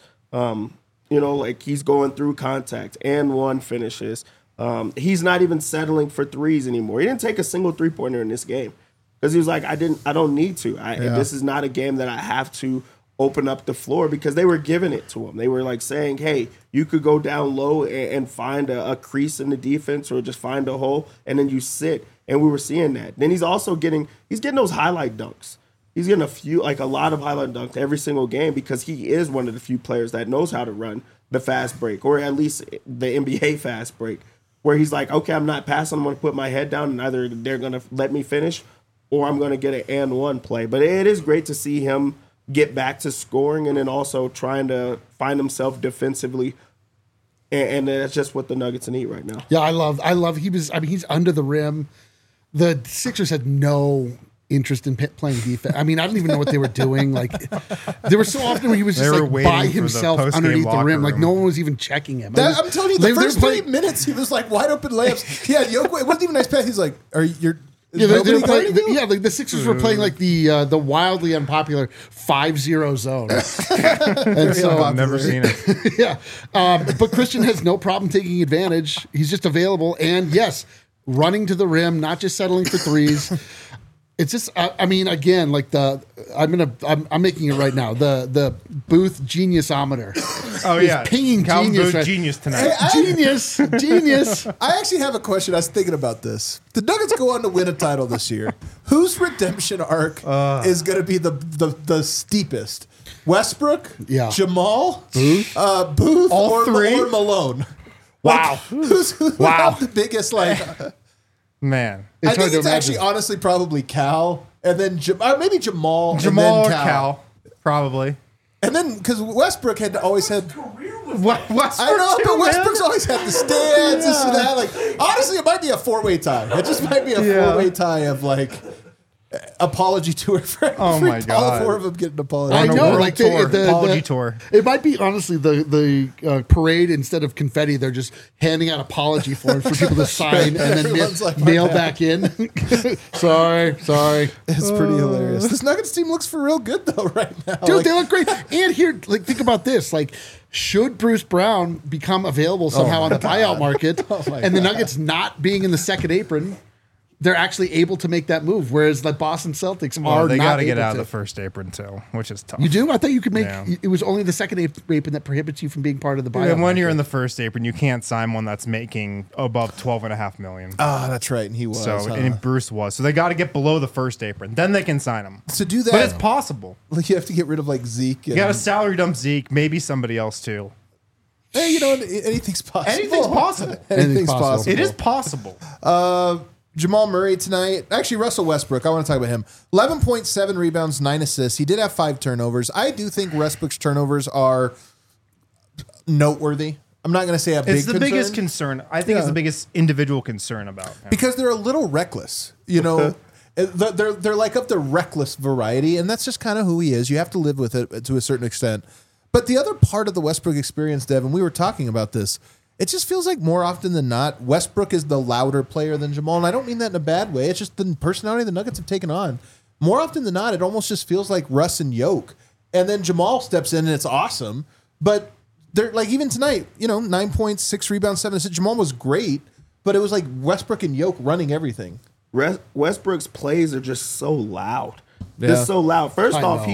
He's going through contact and one finishes. He's not even settling for threes anymore. He didn't take a single three-pointer in this game because he was like, I don't need to. This is not a game that I have to open up the floor, because they were giving it to him. They were saying, hey, you could go down low and find a crease in the defense or just find a hole, and then you sit. And we were seeing that. Then he's also getting those highlight dunks. He's getting a lot of highlight dunks every single game because he is one of the few players that knows how to run the fast break, or at least the NBA fast break, where he's like, okay, I'm not passing. I'm going to put my head down, and either they're going to let me finish or I'm going to get an and one play. But it is great to see him get back to scoring and then also trying to find himself defensively. And that's just what the Nuggets need right now. Yeah, I love he's under the rim. The Sixers had no interest in playing defense. I don't even know what they were doing. There were so often where he was They just were waiting by for the himself post-game underneath the locker rim. room. No one was even checking him. I'm telling you, the first 3 minutes, he was wide open layups. He had Jokic. It wasn't even a nice pass. He's like, Yeah, they were nobody playing, the Sixers were playing the wildly unpopular 5-0 zone. And so, I've never seen it. yeah. But Christian has no problem taking advantage. He's just available. And yes, running to the rim, not just settling for threes. It's just, I'm making it right now. The Booth Geniusometer. Oh, is yeah. pinging Calvin genius. Booth Right. genius tonight. Genius. I actually have a question. I was thinking about this. The Nuggets go on to win a title this year. Whose redemption arc is going to be the steepest? Westbrook? Yeah. Jamal? Booth? Booth? All or, three? or Malone? Wow. Who's the biggest, Man. I It's hard think to it's actually imagine. honestly probably Cal, and then maybe Jamal, and Jamal then or Cal. Probably. And then, because Westbrook had always had... Westbrook I know, too, but man. Westbrook's always had the stands, this and that. Honestly, it might be a four-way tie. It just might be a four-way tie of, apology tour for Oh, my all God. four of them getting an apology. I On a know, world tour, apology tour. It might be honestly the parade, instead of confetti, they're just handing out apology forms for people to sign and then Everyone's like, mail "My back in. sorry. It's pretty hilarious. This Nuggets team looks for real good, though, right now. Dude, they look great. And here, think about this. Should Bruce Brown become available somehow on the buyout market, and the Nuggets not being in the second apron, they're actually able to make that move, whereas the Boston Celtics Well, are they not got to get able out to. of the first apron, too, which is tough. You do? I thought you could make. Yeah. It was only the second apron that prohibits you from being part of the buyout. And when market. you're in the first apron, you can't sign one that's making above $12.5 million. Ah, that's right, and he was. And Bruce was. So they got to get below the first apron. Then they can sign him. To do that, But it's possible. you have to get rid of Zeke. You got to salary dump Zeke, maybe somebody else too. Hey, anything's possible. Anything's possible. Anything's possible. possible. It is possible. Jamal Murray tonight. Actually, Russell Westbrook. I want to talk about him. 11.7 rebounds, 9 assists. He did have 5 turnovers. I do think Westbrook's turnovers are noteworthy. I'm not going to say a big It's the biggest concern. I think it's the biggest individual concern about him. because they're a little reckless. You know, they're like of the reckless variety, and that's just kind of who he is. You have to live with it to a certain extent. But the other part of the Westbrook experience, Devin, we were talking about this. It just feels like more often than not, Westbrook is the louder player than Jamal, and I don't mean that in a bad way. It's just the personality the Nuggets have taken on. More often than not, it almost just feels like Russ and Yoke, and then Jamal steps in and it's awesome. But they're like even tonight, 9 points, 6 rebounds, 7 assists. Jamal was great, but it was like Westbrook and Yoke running everything. Westbrook's plays are just so loud. Yeah. Just so loud. First I off, know.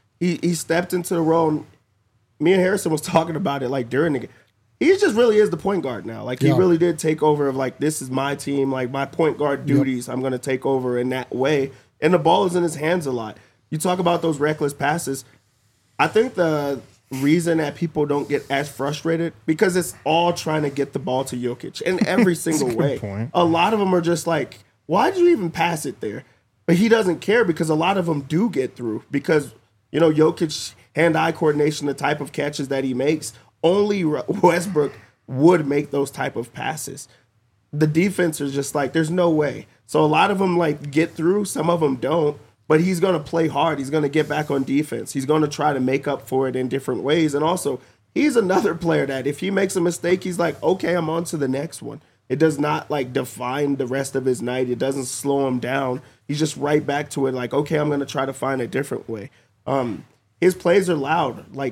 he stepped into the role. And me and Harrison was talking about it like during the game. He just really is the point guard now. Like he really did take over of like, this is my team, like my point guard duties. I'm going to take over in that way. And the ball is in his hands a lot. You talk about those reckless passes. I think the reason that people don't get as frustrated because it's all trying to get the ball to Jokic in every single way. point. A lot of them are just like, why did you even pass it there? But he doesn't care because a lot of them do get through because, Jokic hand-eye coordination, the type of catches that he makes, only Westbrook would make those type of passes. The defense is just like, there's no way. So a lot of them like get through, some of them don't, but he's going to play hard. He's going to get back on defense. He's going to try to make up for it in different ways. And also, he's another player that if he makes a mistake, he's like, okay, I'm on to the next one. It does not like define the rest of his night. It doesn't slow him down. He's just right back to it like, okay, I'm going to try to find a different way. His plays are loud. Like,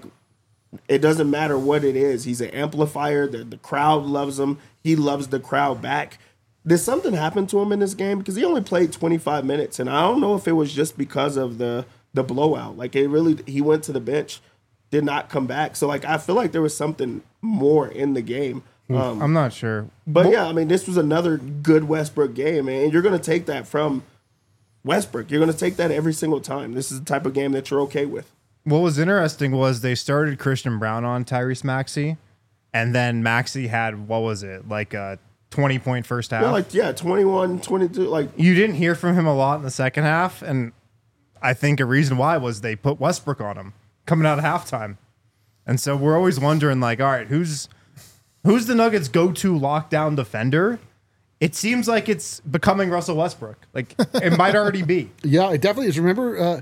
it doesn't matter what it is. He's an amplifier. The crowd loves him. He loves the crowd back. Did something happen to him in this game? Because he only played 25 minutes, and I don't know if it was just because of the blowout. Like, he went to the bench, did not come back. So, like, I feel like there was something more in the game. I'm not sure. But, yeah, I mean, this was another good Westbrook game, and you're going to take that from Westbrook. You're going to take that every single time. This is the type of game that you're okay with. What was interesting was they started Christian Brown on Tyrese Maxey, and then Maxey had, what was it, like a 20-point first half? 21, 22. Like, you didn't hear from him a lot in the second half, and I think a reason why was they put Westbrook on him coming out of halftime. And so we're always wondering, like, all right, who's the Nuggets' go-to lockdown defender? It seems like it's becoming Russell Westbrook. Like, it might already be. Yeah, it definitely is. Remember,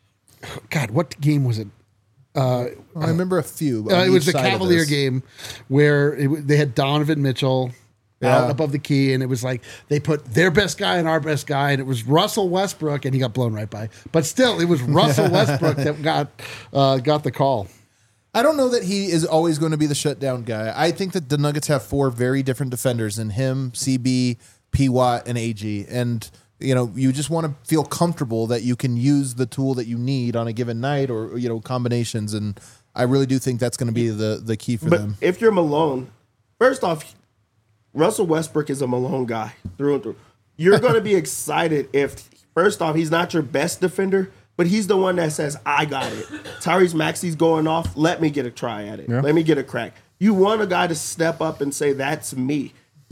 God, what game was it? I remember a few. It was the Cavalier game where they had Donovan Mitchell out above the key, and it was like they put their best guy and our best guy, and it was Russell Westbrook, and he got blown right by. But still, it was Russell Westbrook that got the call. I don't know that he is always going to be the shutdown guy. I think that the Nuggets have 4 very different defenders in him, CB, P. Watt, and AG. And, you just want to feel comfortable that you can use the tool that you need on a given night or, combinations. And I really do think that's going to be the key for them. But if you're Malone, first off, Russell Westbrook is a Malone guy through and through. You're going to be excited if, first off, he's not your best defender, but he's the one that says, I got it. Tyrese Maxey's going off. Let me get a try at it. Yeah. Let me get a crack. You want a guy to step up and say, that's me.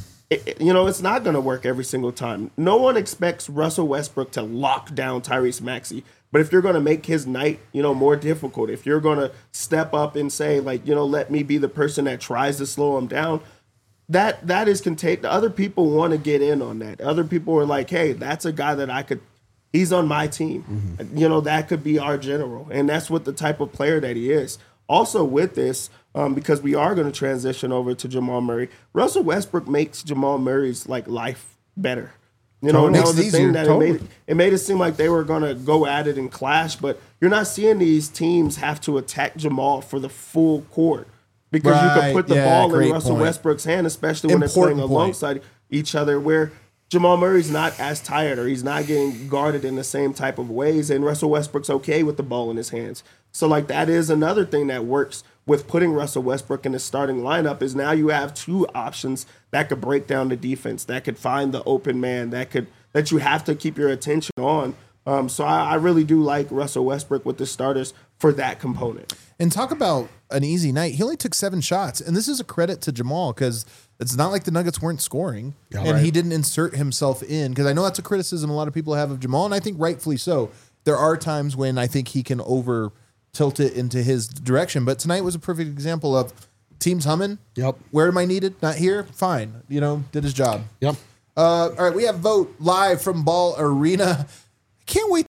It's not going to work every single time. No one expects Russell Westbrook to lock down Tyrese Maxey. But if you're going to make his night, more difficult, if you're going to step up and say, like, let me be the person that tries to slow him down, that is contagious. Other people want to get in on that. Other people are like, hey, that's a guy that he's on my team. Mm-hmm. That could be our general. And that's what the type of player that he is. Also with this, because we are going to transition over to Jamal Murray, Russell Westbrook makes Jamal Murray's life better. And that was the thing that it made it seem like they were going to go at it and clash, but you're not seeing these teams have to attack Jamal for the full court because you could put the ball in Russell Westbrook's hand, especially when they're playing alongside each other, where Jamal Murray's not as tired or he's not getting guarded in the same type of ways, and Russell Westbrook's okay with the ball in his hands. So, that is another thing that works with putting Russell Westbrook in the starting lineup is now you have 2 options that could break down the defense, that could find the open man, that you have to keep your attention on. So I really do like Russell Westbrook with the starters for that component. And talk about an easy night. He only took 7 shots, and this is a credit to Jamal because it's not like the Nuggets weren't scoring, he didn't insert himself in, because I know that's a criticism a lot of people have of Jamal, and I think rightfully so. There are times when I think he can over tilt it into his direction, but tonight was a perfect example of Team's humming. Yep. Where am I needed? Not here. Fine. Did his job. Yep. All right, we have Vote live from Ball Arena. Can't wait.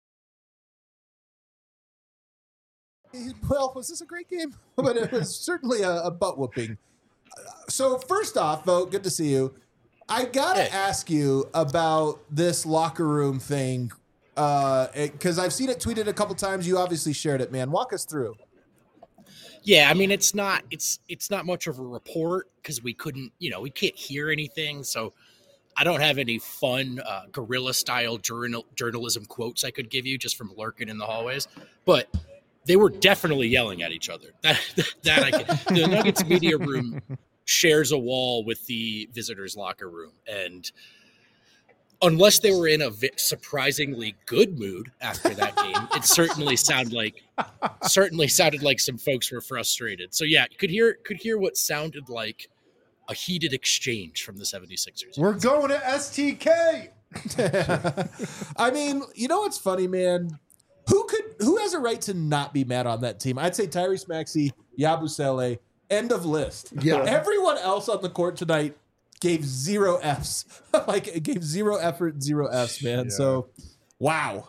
Well, was this a great game? But it was certainly a butt whooping. So first off, Vote, good to see you. I gotta ask you about this locker room thing because I've seen it tweeted a couple times. You obviously shared it, man. Walk us through. Yeah, I mean, it's not much of a report because we couldn't, we can't hear anything. So I don't have any fun guerrilla style journalism quotes I could give you just from lurking in the hallways, but they were definitely yelling at each other. That I can. The Nuggets media room shares a wall with the visitors' locker room, and unless they were in a surprisingly good mood after that game, it certainly sounded like some folks were frustrated. So yeah, could hear what sounded like a heated exchange from the 76ers. We're going to STK. I mean, you know what's funny, man? Who has a right to not be mad on that team? I'd say Tyrese Maxey, Yabusele, end of list. Yeah. Everyone else on the court tonight gave 0 Fs. It gave 0 effort, 0 Fs, man. Yeah. So, wow.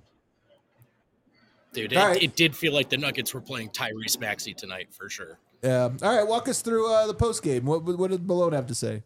Dude, it did feel like the Nuggets were playing Tyrese Maxey tonight for sure. All right, walk us through the post game. What did Malone have to say?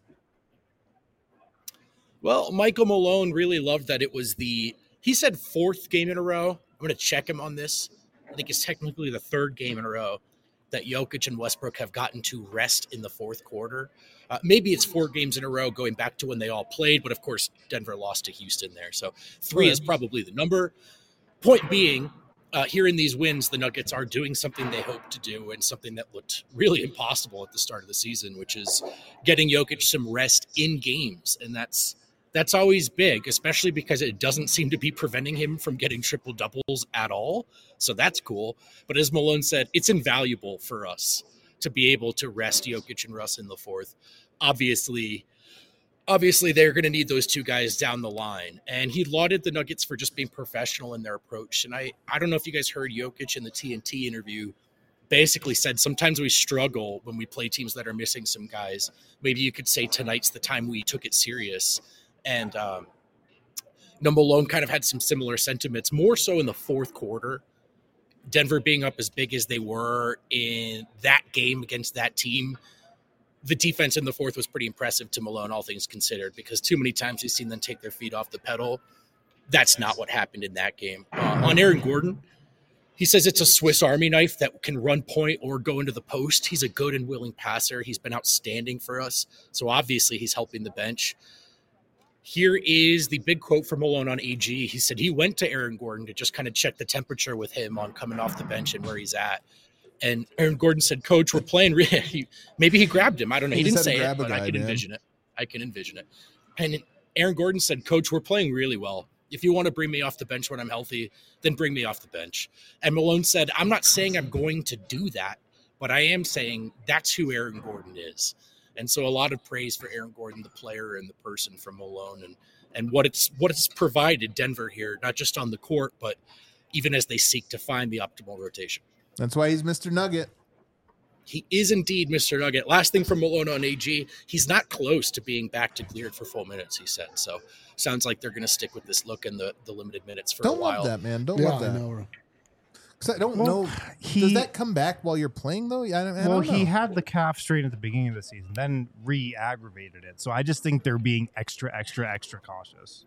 Well, Michael Malone really loved that it was he said 4th game in a row. I'm going to check him on this. I think it's technically the 3rd game in a row that Jokic and Westbrook have gotten to rest in the 4th quarter. Maybe it's 4 games in a row going back to when they all played, but of course Denver lost to Houston there. So 3 is probably the number. Point being, here in these wins, the Nuggets are doing something they hoped to do and something that looked really impossible at the start of the season, which is getting Jokic some rest in games. And that's always big, especially because it doesn't seem to be preventing him from getting triple doubles at all. So that's cool. But as Malone said, it's invaluable for us to be able to rest Jokic and Russ in the 4th. Obviously they're going to need those 2 guys down the line. And he lauded the Nuggets for just being professional in their approach. And I don't know if you guys heard Jokic in the TNT interview basically said sometimes we struggle when we play teams that are missing some guys. Maybe you could say tonight's the time we took it serious. And Malone kind of had some similar sentiments, more so in the 4th quarter. Denver being up as big as they were in that game against that team, the defense in the 4th was pretty impressive to Malone, all things considered, because too many times he's seen them take their feet off the pedal. That's not what happened in that game. On Aaron Gordon, he says it's a Swiss Army knife that can run point or go into the post. He's a good and willing passer. He's been outstanding for us. So obviously he's helping the bench. Here is the big quote from Malone on AG. He said he went to Aaron Gordon to just kind of check the temperature with him on coming off the bench and where he's at. And Aaron Gordon said, "Coach, we're playing." Maybe he grabbed him. I don't know. He didn't say it, but I can envision it. I can envision it. And Aaron Gordon said, "Coach, we're playing really well. If you want to bring me off the bench when I'm healthy, then bring me off the bench." And Malone said, "I'm not saying I'm going to do that, but I am saying that's who Aaron Gordon is." And so a lot of praise for Aaron Gordon, the player and the person, from Malone and what it's provided Denver here, not just on the court, but even as they seek to find the optimal rotation. That's why he's Mr. Nugget. He is indeed Mr. Nugget. Last thing from Malone on AG, he's not close to being back to cleared for full minutes, he said. So sounds like they're going to stick with this look in the limited minutes for a while. Don't love that, man. Don't love that. Because I don't know. Does that come back while you're playing, though? I don't know. He had the calf strain at the beginning of the season, then re-aggravated it. So I just think they're being extra cautious.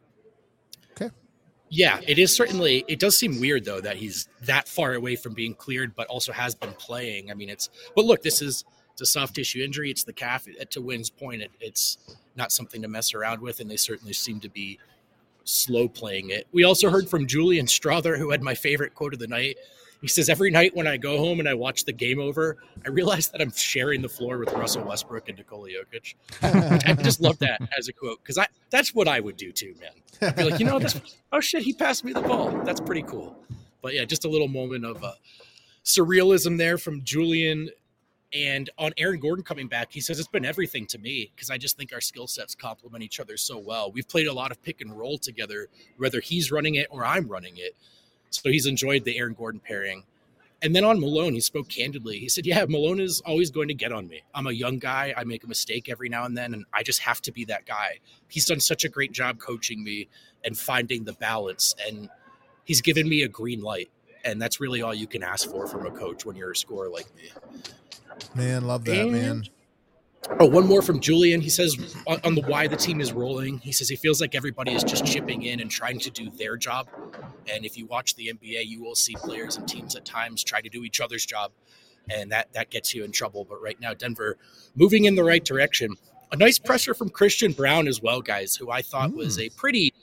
Okay. Yeah, it is certainly. It does seem weird, though, that he's that far away from being cleared, but also has been playing. I mean, but look, it's a soft tissue injury. It's the calf. To Wynn's point, it's not something to mess around with, and they certainly seem to be slow playing it. We also heard from Julian Strother, who had my favorite quote of the night. He says, "Every night when I go home and I watch the game over, I realize that I'm sharing the floor with Russell Westbrook and Nikola Jokic." I just love that as a quote, because that's what I would do too, man. I'd be like, oh shit, he passed me the ball. That's pretty cool. But yeah, just a little moment of surrealism there from Julian. And on Aaron Gordon coming back, he says it's been everything to me because I just think our skill sets complement each other so well. We've played a lot of pick and roll together, whether he's running it or I'm running it. So he's enjoyed the Aaron Gordon pairing. And then on Malone, he spoke candidly. He said, yeah, Malone is always going to get on me. I'm a young guy. I make a mistake every now and then, and I just have to be that guy. He's done such a great job coaching me and finding the balance, and he's given me a green light. And that's really all you can ask for from a coach when you're a scorer like me. Man, love that, man. Oh, one more from Julian. He says on the why the team is rolling, he says he feels like everybody is just chipping in and trying to do their job. And if you watch the NBA, you will see players and teams at times try to do each other's job, and that gets you in trouble. But right now, Denver moving in the right direction. A nice presser from Christian Braun as well, guys, who I thought was a pretty,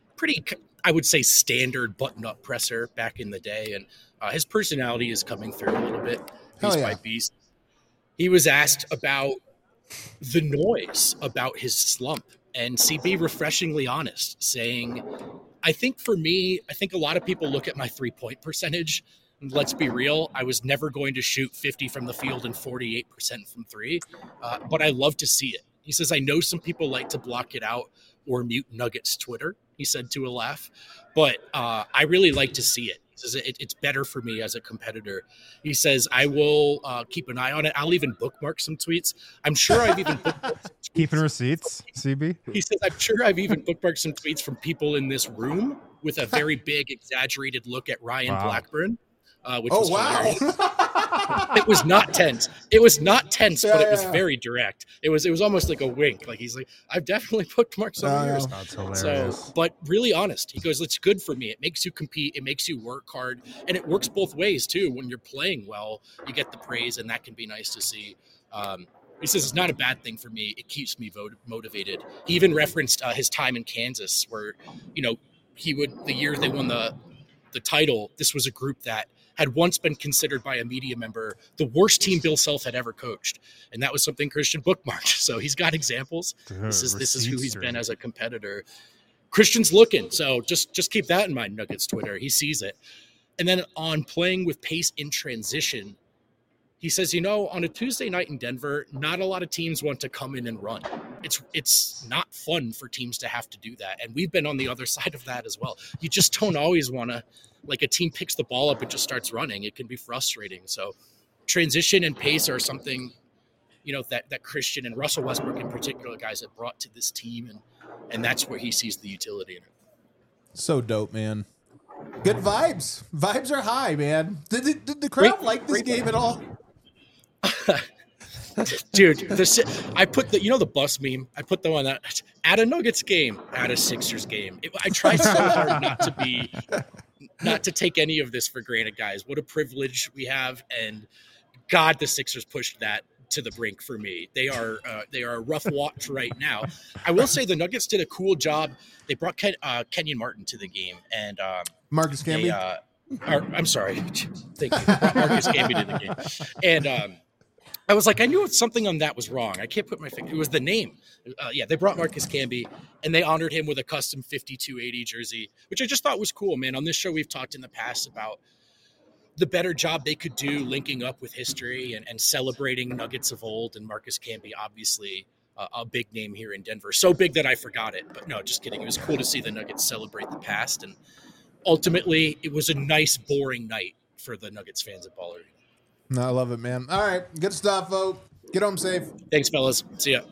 I would say, standard button-up presser back in the day. And his personality is coming through a little bit. Beast by beast. He was asked about the noise about his slump, and CB refreshingly honest, saying, I think for me, I think a lot of people look at my 3-point percentage. And let's be real, I was never going to shoot 50 from the field and 48% from three, but I love to see it. He says, I know some people like to block it out or mute Nuggets Twitter, he said to a laugh, but I really like to see it. He says, it's better for me as a competitor. He says, I will keep an eye on it. I'll even bookmark some tweets. I'm sure I've even bookmarked Keeping receipts, CB? He says, I'm sure I've even bookmarked some tweets from people in this room with a very big, exaggerated look at Ryan Blackburn, which was hilarious. It was not tense. It was not tense, but it was very direct. It was almost like a wink. Like he's like, I've definitely bookmarked some of yours. That's hilarious. So, but really honest. He goes, it's good for me. It makes you compete. It makes you work hard. And it works both ways, too. When you're playing well, you get the praise, and that can be nice to see. He says it's not a bad thing for me. It keeps me motivated. He even referenced his time in Kansas where, he would, the year they won the title, this was a group that had once been considered by a media member the worst team Bill Self had ever coached. And that was something Christian bookmarked. So he's got examples. This is who he's been as a competitor. Christian's looking. So just keep that in mind, Nuggets Twitter. He sees it. And then on playing with pace in transition, he says, on a Tuesday night in Denver, not a lot of teams want to come in and run. It's not fun for teams to have to do that. And we've been on the other side of that as well. You just don't always want to, like a team picks the ball up and just starts running. It can be frustrating. So transition and pace are something, that Christian and Russell Westbrook in particular, guys, have brought to this team. And that's where he sees the utility in it. So dope, man. Good vibes. Vibes are high, man. Did the crowd like this game at all? Dude, I put the bus meme. I put them on that at a Nuggets game, at a Sixers game. I try so hard not to take any of this for granted, guys. What a privilege we have, and God, the Sixers pushed that to the brink for me. They are a rough watch right now. I will say the Nuggets did a cool job. They brought Kenyon Martin to the game, and Marcus Camby. I'm sorry, thank you. Marcus Camby to the game, and I was like, I knew something on that was wrong. I can't put my finger. It was the name. They brought Marcus Camby, and they honored him with a custom 5280 jersey, which I just thought was cool, man. On this show, we've talked in the past about the better job they could do linking up with history and celebrating Nuggets of old, and Marcus Camby, obviously a big name here in Denver. So big that I forgot it, but no, just kidding. It was cool to see the Nuggets celebrate the past, and ultimately, it was a nice, boring night for the Nuggets fans at Ball Arena. No, I love it, man. All right, good stuff, Vogt. Get home safe. Thanks, fellas. See ya.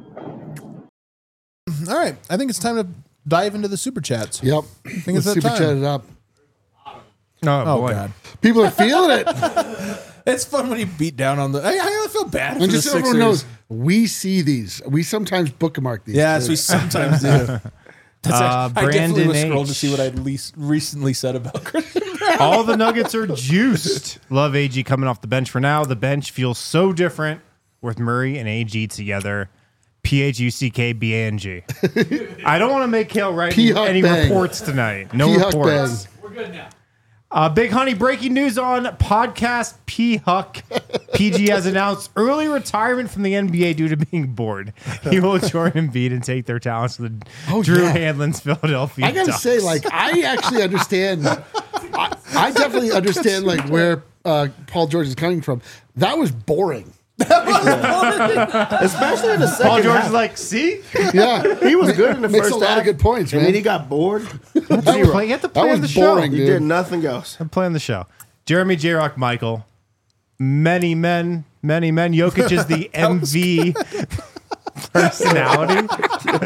All right, I think it's time to dive into the super chats. Yep. I think it's that super time. chat it up. Oh, boy. God. People are feeling it. It's fun when you beat down on the. I feel bad for And the just so everyone Sixers. knows, we see these. We sometimes bookmark these. Yes, we sometimes do. That's I definitely Brandon was scrolled H. to see what I'd recently said about Christian. All the Nuggets are juiced. Love AG coming off the bench for now. The bench feels so different with Murray and AG together. PHUCKBANG. I don't want to make Kale write any reports tonight. No reports. We're good now. Big Honey, breaking news on podcast P-Huck. PG has announced early retirement from the NBA due to being bored. He will join Embiid and take their talents to the Drew Hanlon's Philadelphia I gotta Ducks. say, I actually understand. I definitely understand where Paul George is coming from. That was boring. Especially in the second Paul George half. is like, see? Yeah, He was good in the makes first a lot half. of good points, And man. then he got bored. You have to That play on was the show. boring, He dude. did nothing else. I'm playing the show. Jeremy J. Rock Michael. Many men. Jokic is the MV personality.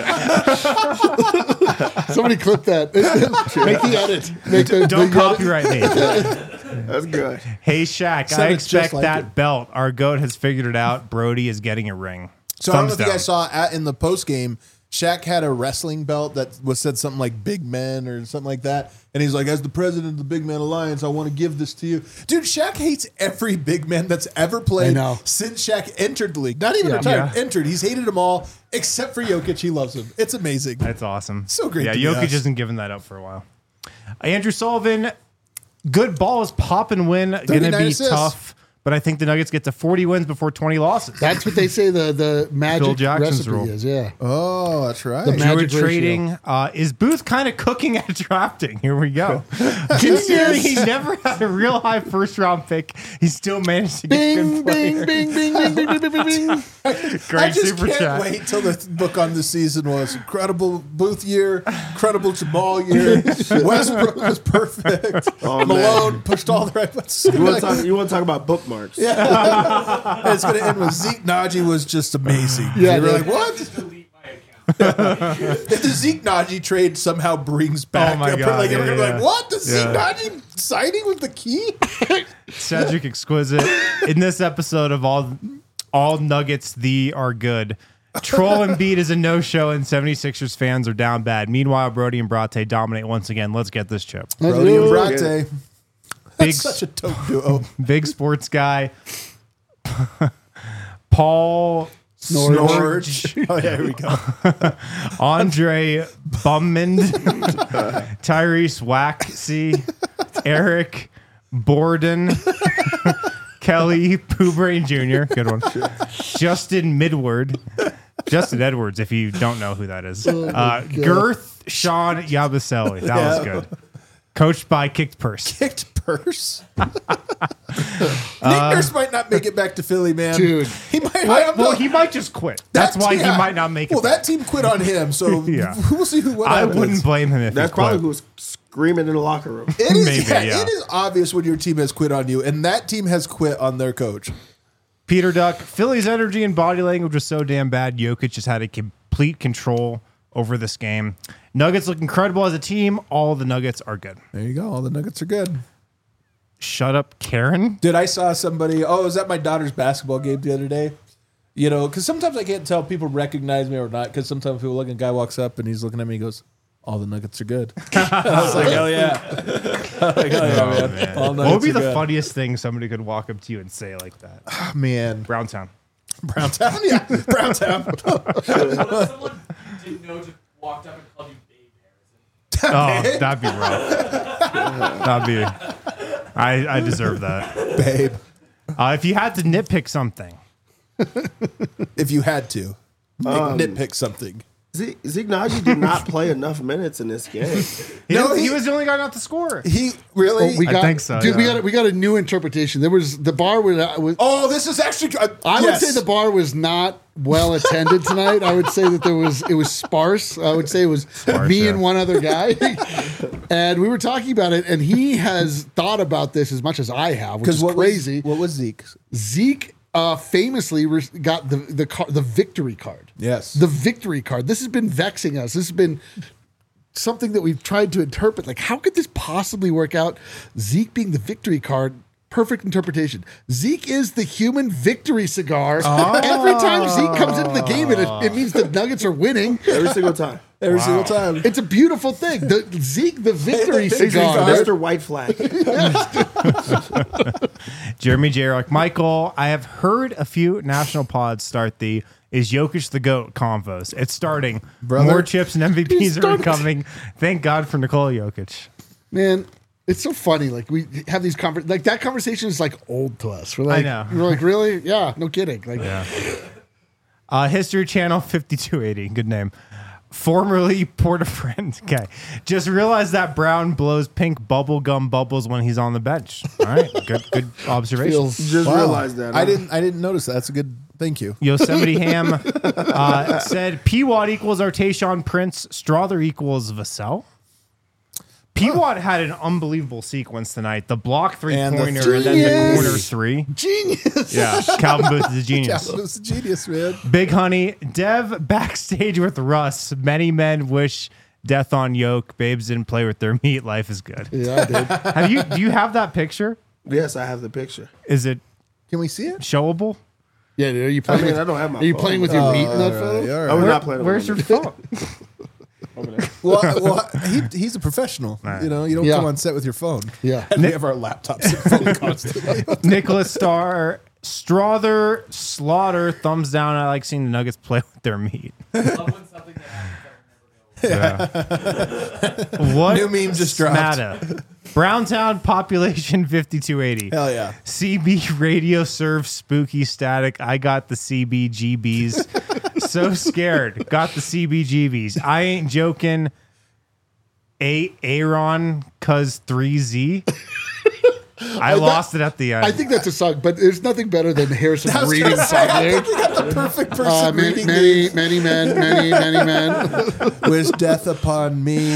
Somebody clip that. Make the edit. Don't copyright me. That's good. Hey, Shaq, Sounded I just expect like that it. belt. Our GOAT has figured it out. Brody is getting a ring. So I don't know Thumbs if you guys down. saw in the post game, Shaq had a wrestling belt that said something like big men or something like that. And he's like, as the president of the Big Man Alliance, I want to give this to you. Dude, Shaq hates every big man that's ever played I know. since Shaq entered the league. Not even retired, entered. He's hated them all except for Jokic. He loves him. It's amazing. That's awesome. So great Yeah, to be Jokic us. isn't giving that up for a while. Andrew Sullivan, good ball is pop and win. Going to 39 be assists. tough, but I think the Nuggets get to 40 wins before 20 losses. That's what they say the Phil magic Jackson's recipe rule. is. Yeah. Oh, that's right. The Druid magic ratio. trading. Is Booth kind of cooking at drafting? Here we go. Considering he's never had a real high first round pick, he still managed to get Bing, good bing, players. bing, bing, bing, bing, bing, bing, bing. I Great just super can't chat. wait till the book on the season was incredible Booth year, incredible Jamal year. Westbrook was perfect. Oh, man. Malone pushed all the right buttons. You want to talk about bookmarks? Yeah. It's going to end with Zeke Naji was just amazing. Yeah, you were dude. like, what? If the Zeke Naji trade somehow brings back, Oh my God, like, yeah, we're gonna be yeah. like, what? The Zeke Yeah. Naji signing with the key? Cedric Exquisite. In this episode of all Nuggets, the are good. Troll and Beat is a no-show, and 76ers fans are down bad. Meanwhile, Brody and Brate dominate once again. Let's get this chip. Brody and do. Brate. Big, That's such a dope duo. big sports guy. Paul Snorge. Oh, yeah, here we go. Andre Bummond, Tyrese Waxy, Eric Borden, Kelly Poobrain Jr., good one, Justin Midward, Justin Edwards, if you don't know who that is, Girth Sean Yabusele, that was good. Coached by Kicked Purse. Kicked purse. Nick Nurse might not make it back to Philly, man. Dude. He might. Well, he might just quit. That's why he might not make it. Well, that team quit on him, so Yeah. we'll see who what I happens. wouldn't blame him if That's he probably quit. who was screaming in the locker room. It is, Maybe, yeah. It is obvious when your team has quit on you, and that team has quit on their coach. Peter Duck, Philly's energy and body language was so damn bad. Jokic just had a complete control over this game. Nuggets look incredible as a team. All the Nuggets are good. There you go. All the Nuggets are good. Shut up, Karen. Dude, I saw somebody. Oh, I was at my daughter's basketball game the other day. You know, because sometimes I can't tell if people recognize me or not. Because sometimes people look, and a guy walks up and he's looking at me. He goes, "All the Nuggets are good." I was like, "Hell yeah!" Like, "Hell yeah, man!" All What would be Nuggets are the good. funniest thing somebody could walk up to you and say like that? Oh, man, Browntown. Browntown, yeah, Browntown. Someone didn't know just walked up and called you Babe Harrison. Oh, that'd be rough. That'd be. I deserve that. Babe, If you had to nitpick something, if you had to nitpick something. Zeke Naji did not play enough minutes in this game. he was the only guy not to score. He really. We got, think so, dude. yeah. We got a new interpretation. There was the bar was. Oh, this is actually. I would say the bar was not well attended tonight. I would say that it was sparse. I would say it was me yeah. and one other guy, and we were talking about it. And he has thought about this as much as I have, which is crazy. What was Zeke? Zeke famously got the victory card. Yes. The victory card. This has been vexing us. This has been something that we've tried to interpret. Like, how could this possibly work out? Zeke being the victory card. Perfect interpretation. Zeke is the human victory cigar. Every time Zeke comes into the game, it means the Nuggets are winning. Every single time. Every single time. It's a beautiful thing. Zeke, the victory cigar. Mr. White Flag. Jeremy J. Rock. Michael, I have heard a few national pods start the "Is Jokic the GOAT" convos. It's starting. Brother. More chips and MVPs are started. coming. Thank God for Nikola Jokic. Man, it's so funny. Like, we have these like that conversation is like old to us. We're like, know. We're like, really? Yeah, no kidding. Like, History Channel 5280. Good name. Formerly Porta Friend. Okay. Just realized that Brown blows pink bubblegum bubbles when he's on the bench. All right. Good observation. feels Just realized that. I huh? didn't notice that. That's a good. Thank you. Yosemite Ham said P-Watt equals Artayshaun Prince. Strother equals Vassell. P-Watt had an unbelievable sequence tonight. The block And the three-pointer and then the genius. corner three. Genius. Yeah, Calvin Booth is a genius. Calvin was a genius, man. Big Honey, Dev backstage with Russ. Many men wish death on yoke. Babes didn't play with their meat. Life is good. Yeah, I did. Do you have that picture? Yes, I have the picture. Is it Can we see it? showable? Yeah, dude, are you playing? I mean, with, I don't have my Are you phone. playing with your meat in that photo? All right, I all was right. not playing. Where's your with phone? Well, he's a professional. You know, you don't Yeah. come on set with your phone. Yeah. And we have our laptops and phone constantly. Nicholas Starr, Strother, Slaughter, thumbs down. I like seeing the Nuggets play with their meat. Love when something that happens that will never go. What? New meme just dropped. Smatta. Browntown population 5280. Hell yeah. CB radio serves spooky static. I got the CBGBs. So scared. Got the CBGBs. I ain't joking. Aaron cuz 3Z. I lost it at the end. I think that's a song, but there's nothing better than Harrison reading something. The perfect person reading Many men, many men. wish death upon me.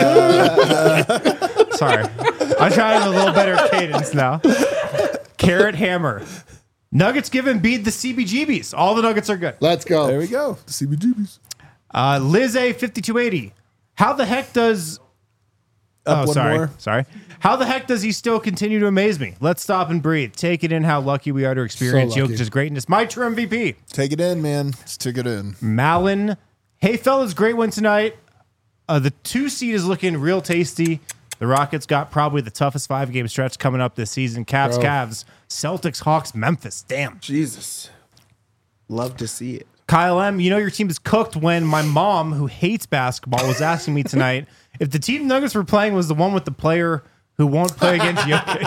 Sorry. I'm trying a little better cadence now. Carrot Hammer. Nuggets give Embiid the CBGBs. All the Nuggets are good. Let's go. There we go. CBGBs. Liz A 5280. How the heck does Up one sorry. more. Sorry. How the heck does he still continue to amaze me? Let's stop and breathe. Take it in how lucky we are to experience So lucky. Jokic's greatness. My true MVP. Take it in, man. Just take it in. Malin. Hey, fellas, great win tonight. The 2 seed is looking real tasty. The Rockets got probably the toughest 5-game stretch coming up this season. Caps, Bro. Cavs, Celtics, Hawks, Memphis. Damn. Jesus, love to see it. Kyle M., you know your team is cooked when my mom, who hates basketball, was asking me tonight if the team Nuggets were playing was the one with the player who won't play against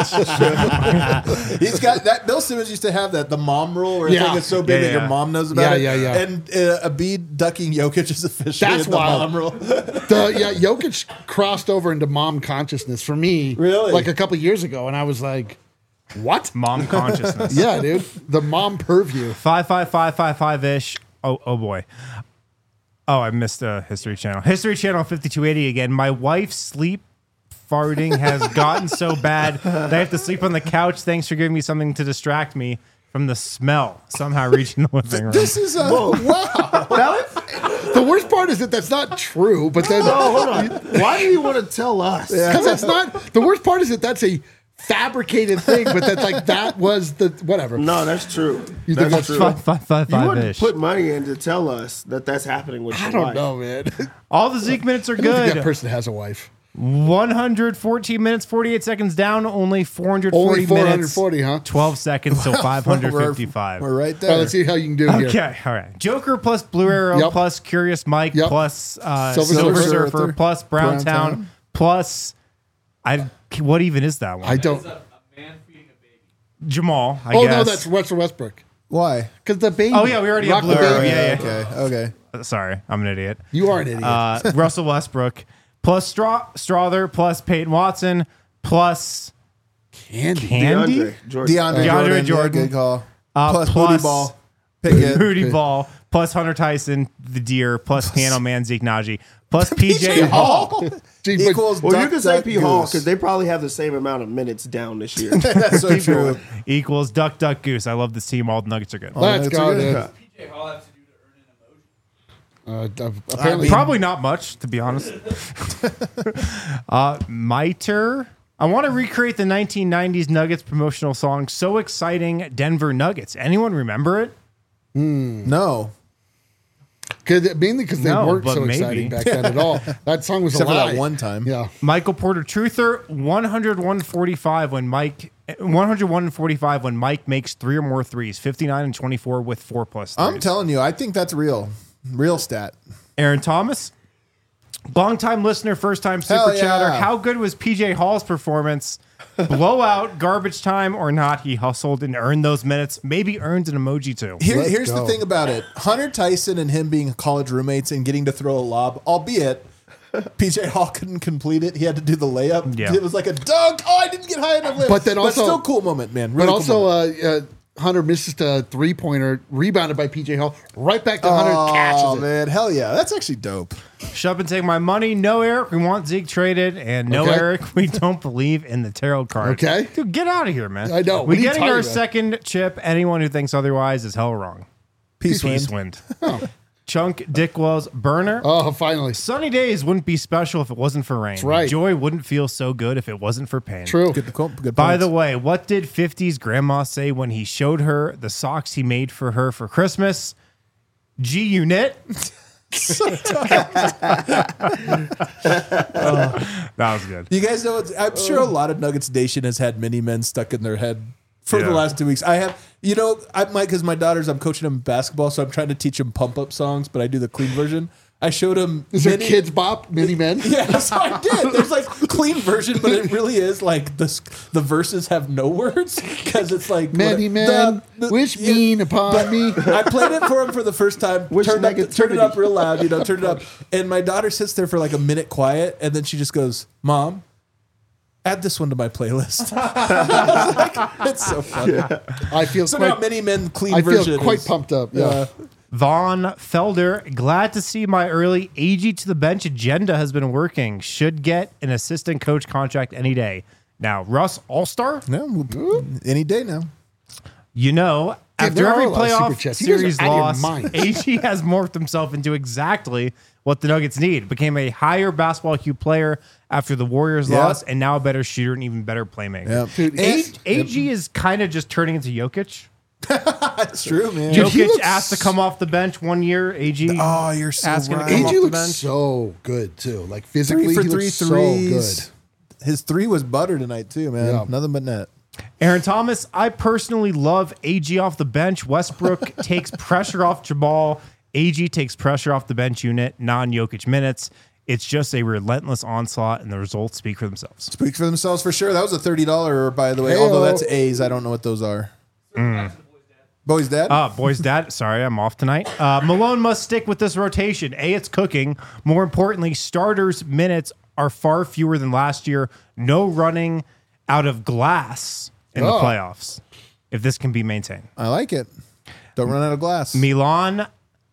Jokic. He's got that. Bill Simmons used to have that, the mom rule, where Yeah. I think it's so big Yeah, that yeah. your mom knows about Yeah, it. yeah, yeah. And Embiid ducking Jokic is officially That's the wild. mom rule. Jokic crossed over into mom consciousness for me, Really? like a couple years ago, and I was like, "What?" Mom consciousness. Yeah, dude, the mom purview. 55555-ish. Oh boy. Oh, I missed History Channel. History Channel 5280 again. My wife's sleep farting has gotten so bad that I have to sleep on the couch. Thanks for giving me something to distract me from the smell somehow reaching the living room. This is wow. The worst part is that that's not true, but then Oh, hold on. Why do you want to tell us? because that's not. The worst part is that that's a fabricated thing, but that's like that was the whatever. No, that's true. You think That's that's true. true? 55555-ish. Put money in to tell us that that's happening with I your don't wife. know, man. All the Zeke minutes are I don't think that good. person has a wife. 114 minutes, 48 seconds down, only 440 Only minutes. 440, huh? 12 seconds, so 555. We're right All there. right, let's see how you can do here. Okay, all right. Joker plus Blue Arrow Yep. plus Curious Mike Yep. plus Silver Silver Surfer. Surfer plus Browntown Browntown. plus what even is that one? I don't. It's a man feeding a baby. Jamal, I Oh guess. no, that's Russell Westbrook. Why? Because the baby. Oh, yeah, we already have Rock the Blue Arrow, baby. yeah. Okay. Sorry, I'm an idiot. You are an idiot. Russell Westbrook plus Strother plus Peyton Watson plus Candy. Candy. DeAndre Jordan. DeAndre Jordan. Yeah, good call. Plus plus- Booty Ball. Pickett. Rudy Ball plus Hunter Tyson, the Deer plus Piano Man Zeke Naji plus PJ Hall. Gee, but- Equals Well, you Duck, can say Duck, P. Hall Goose. because they probably have the same amount of minutes down this year. That's so true. Equals Duck Duck Goose. I love this team. All the Nuggets are good. Let's that's go, a good- dude. PJ Hall have to do to earn an emoji. Apparently, Probably not much, to be honest. Miter. I want to recreate the 1990s Nuggets promotional song, So Exciting Denver Nuggets. Anyone remember it? No. mainly because they No, weren't but so maybe. exciting back then at all. That song was Except a for lie. that one time. Yeah. Michael Porter Truther, 101-45 when Mike 101-45 when Mike makes 3 or more threes, 59 and 24 with 4+ threes. I'm telling you, I think that's real. Real stat. Aaron Thomas, long-time listener, first-time super Hell yeah. chatter. How good was PJ Hall's performance? Blowout, garbage time or not, he hustled and earned those minutes. Maybe earned an emoji too. Let's Here's go. the thing about it. Hunter Tyson and him being college roommates and getting to throw a lob, albeit PJ Hall couldn't complete it. He had to do the layup. Yeah. It was like a dunk. Oh, I didn't get high enough layup. But then But also- still cool moment, man. But Really cool also, moment. Hunter misses a 3-pointer, rebounded by PJ Hall, right back to Hunter, catches Oh it. man, hell yeah, that's actually dope. Shut up and take my money. No, Eric, we want Zeke traded. And no, Okay. Eric, we don't believe in the tarot card. Okay. Dude, get out of here, man. I know. What We're are you getting talking our about? second chip. Anyone who thinks otherwise is hell wrong. Peace Wind. Chunk Dickwell's burner. Oh, finally. Sunny days wouldn't be special if it wasn't for rain. That's right. Joy wouldn't feel so good if it wasn't for pain. True. Good By points. the way, what did 50's grandma say when he showed her the socks he made for her for Christmas? G-Unit. That was good. You guys know, I'm sure a lot of Nuggets Nation has had mini men stuck in their head for the last 2 weeks. I have, because my daughters, I'm coaching them basketball, so I'm trying to teach them pump up songs, but I do the clean version. I showed them. Is there Kids Bop, Mini Men? Yes, I did. There's like clean version, but it really is like the verses have no words because it's like Many men wish mean upon me. I played it for him for the first time. Wish Turn it negativity. up real loud, turn it up. And my daughter sits there for like a minute quiet, and then she just goes, "Mom, add this one to my playlist." It's so funny. I feel So quite, now Many Men clean I version. feel quite is- pumped up. Yeah. Vaughn Felder, glad to see my early AG to the bench agenda has been working. Should get an assistant coach contract any day. Now, Russ All-Star, Any day now. after there are every a lot of super playoff chats. You guys are series out of your loss, minds. AG has morphed himself into exactly what the Nuggets need. Became a higher basketball IQ player after the Warriors Yeah. loss, and now a better shooter and even better playmaker. Dude, AG is kind of just turning into Jokic. That's true, man. Dude, he Jokic looks- asked to come off the bench one year. AG. Oh, you're so asking to right. come off AG the looks bench. so good, too. Like, physically, 3 for he 3 looks so threes. good. His 3 was butter tonight too, man. Yeah. Nothing but net. Aaron Thomas, I personally love AG off the bench. Westbrook takes pressure off Jabal. AG takes pressure off the bench unit, non-Jokic minutes. It's just a relentless onslaught, and the results speak for themselves. Speak for themselves for sure. That was a $30, by the way. Heyo. Although that's A's, I don't know what those are. Boy's dad. Boys, dad, sorry, I'm off tonight. Malone must stick with this rotation. A, it's cooking. More importantly, starters' minutes are far fewer than last year. No running out of glass in the Oh. playoffs, if this can be maintained. I like it. Don't run out of glass. Milan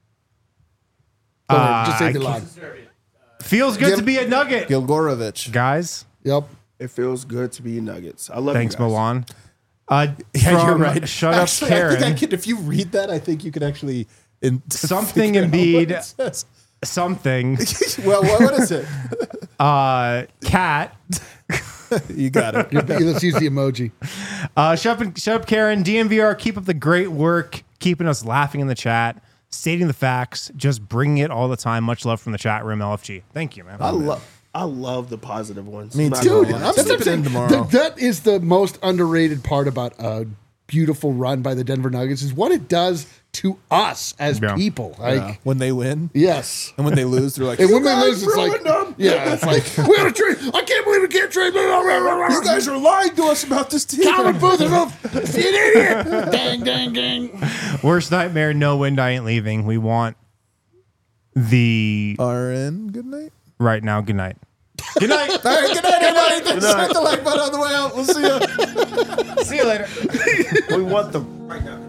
Go ahead, just say I the line. feels good to be a Nugget. Gilgorovich. Guys, Yep. It feels good to be Nuggets. I love thanks, you guys. Milan. Yeah, From you're right. Shut Actually, up, I think Karen. I could, if you read that, I think you could actually Something figure out what Embiid. it says. Something. Well, what is it? Cat. You got it. Let's use the emoji. Shut up, Karen. DMVR, keep up the great work, keeping us laughing in the chat, stating the facts, just bringing it all the time. Much love from the chat room, LFG. Thank you, man. I love the positive ones. Me Not too. gonna lie. I'm stepping in tomorrow. That is the most underrated part about a beautiful run by the Denver Nuggets is what it does to us as Yeah. people. Like, When they win yes. and when they lose, they're like, And you when they guys lose, it's like, ruined them. yeah, it's like, we gotta trade. I can't believe we can't trade. you guys are lying to us about this team. Calvin Booth is an idiot. Dang, dang, dang. Worst nightmare, no wind, I ain't leaving. We want the RN, good night. right now. Good night. Good night. All right, good night, everybody. Thanks for hitting the like button on the way out. We'll see you. See you later. We want them right now.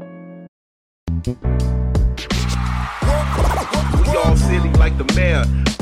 We all silly like the mayor.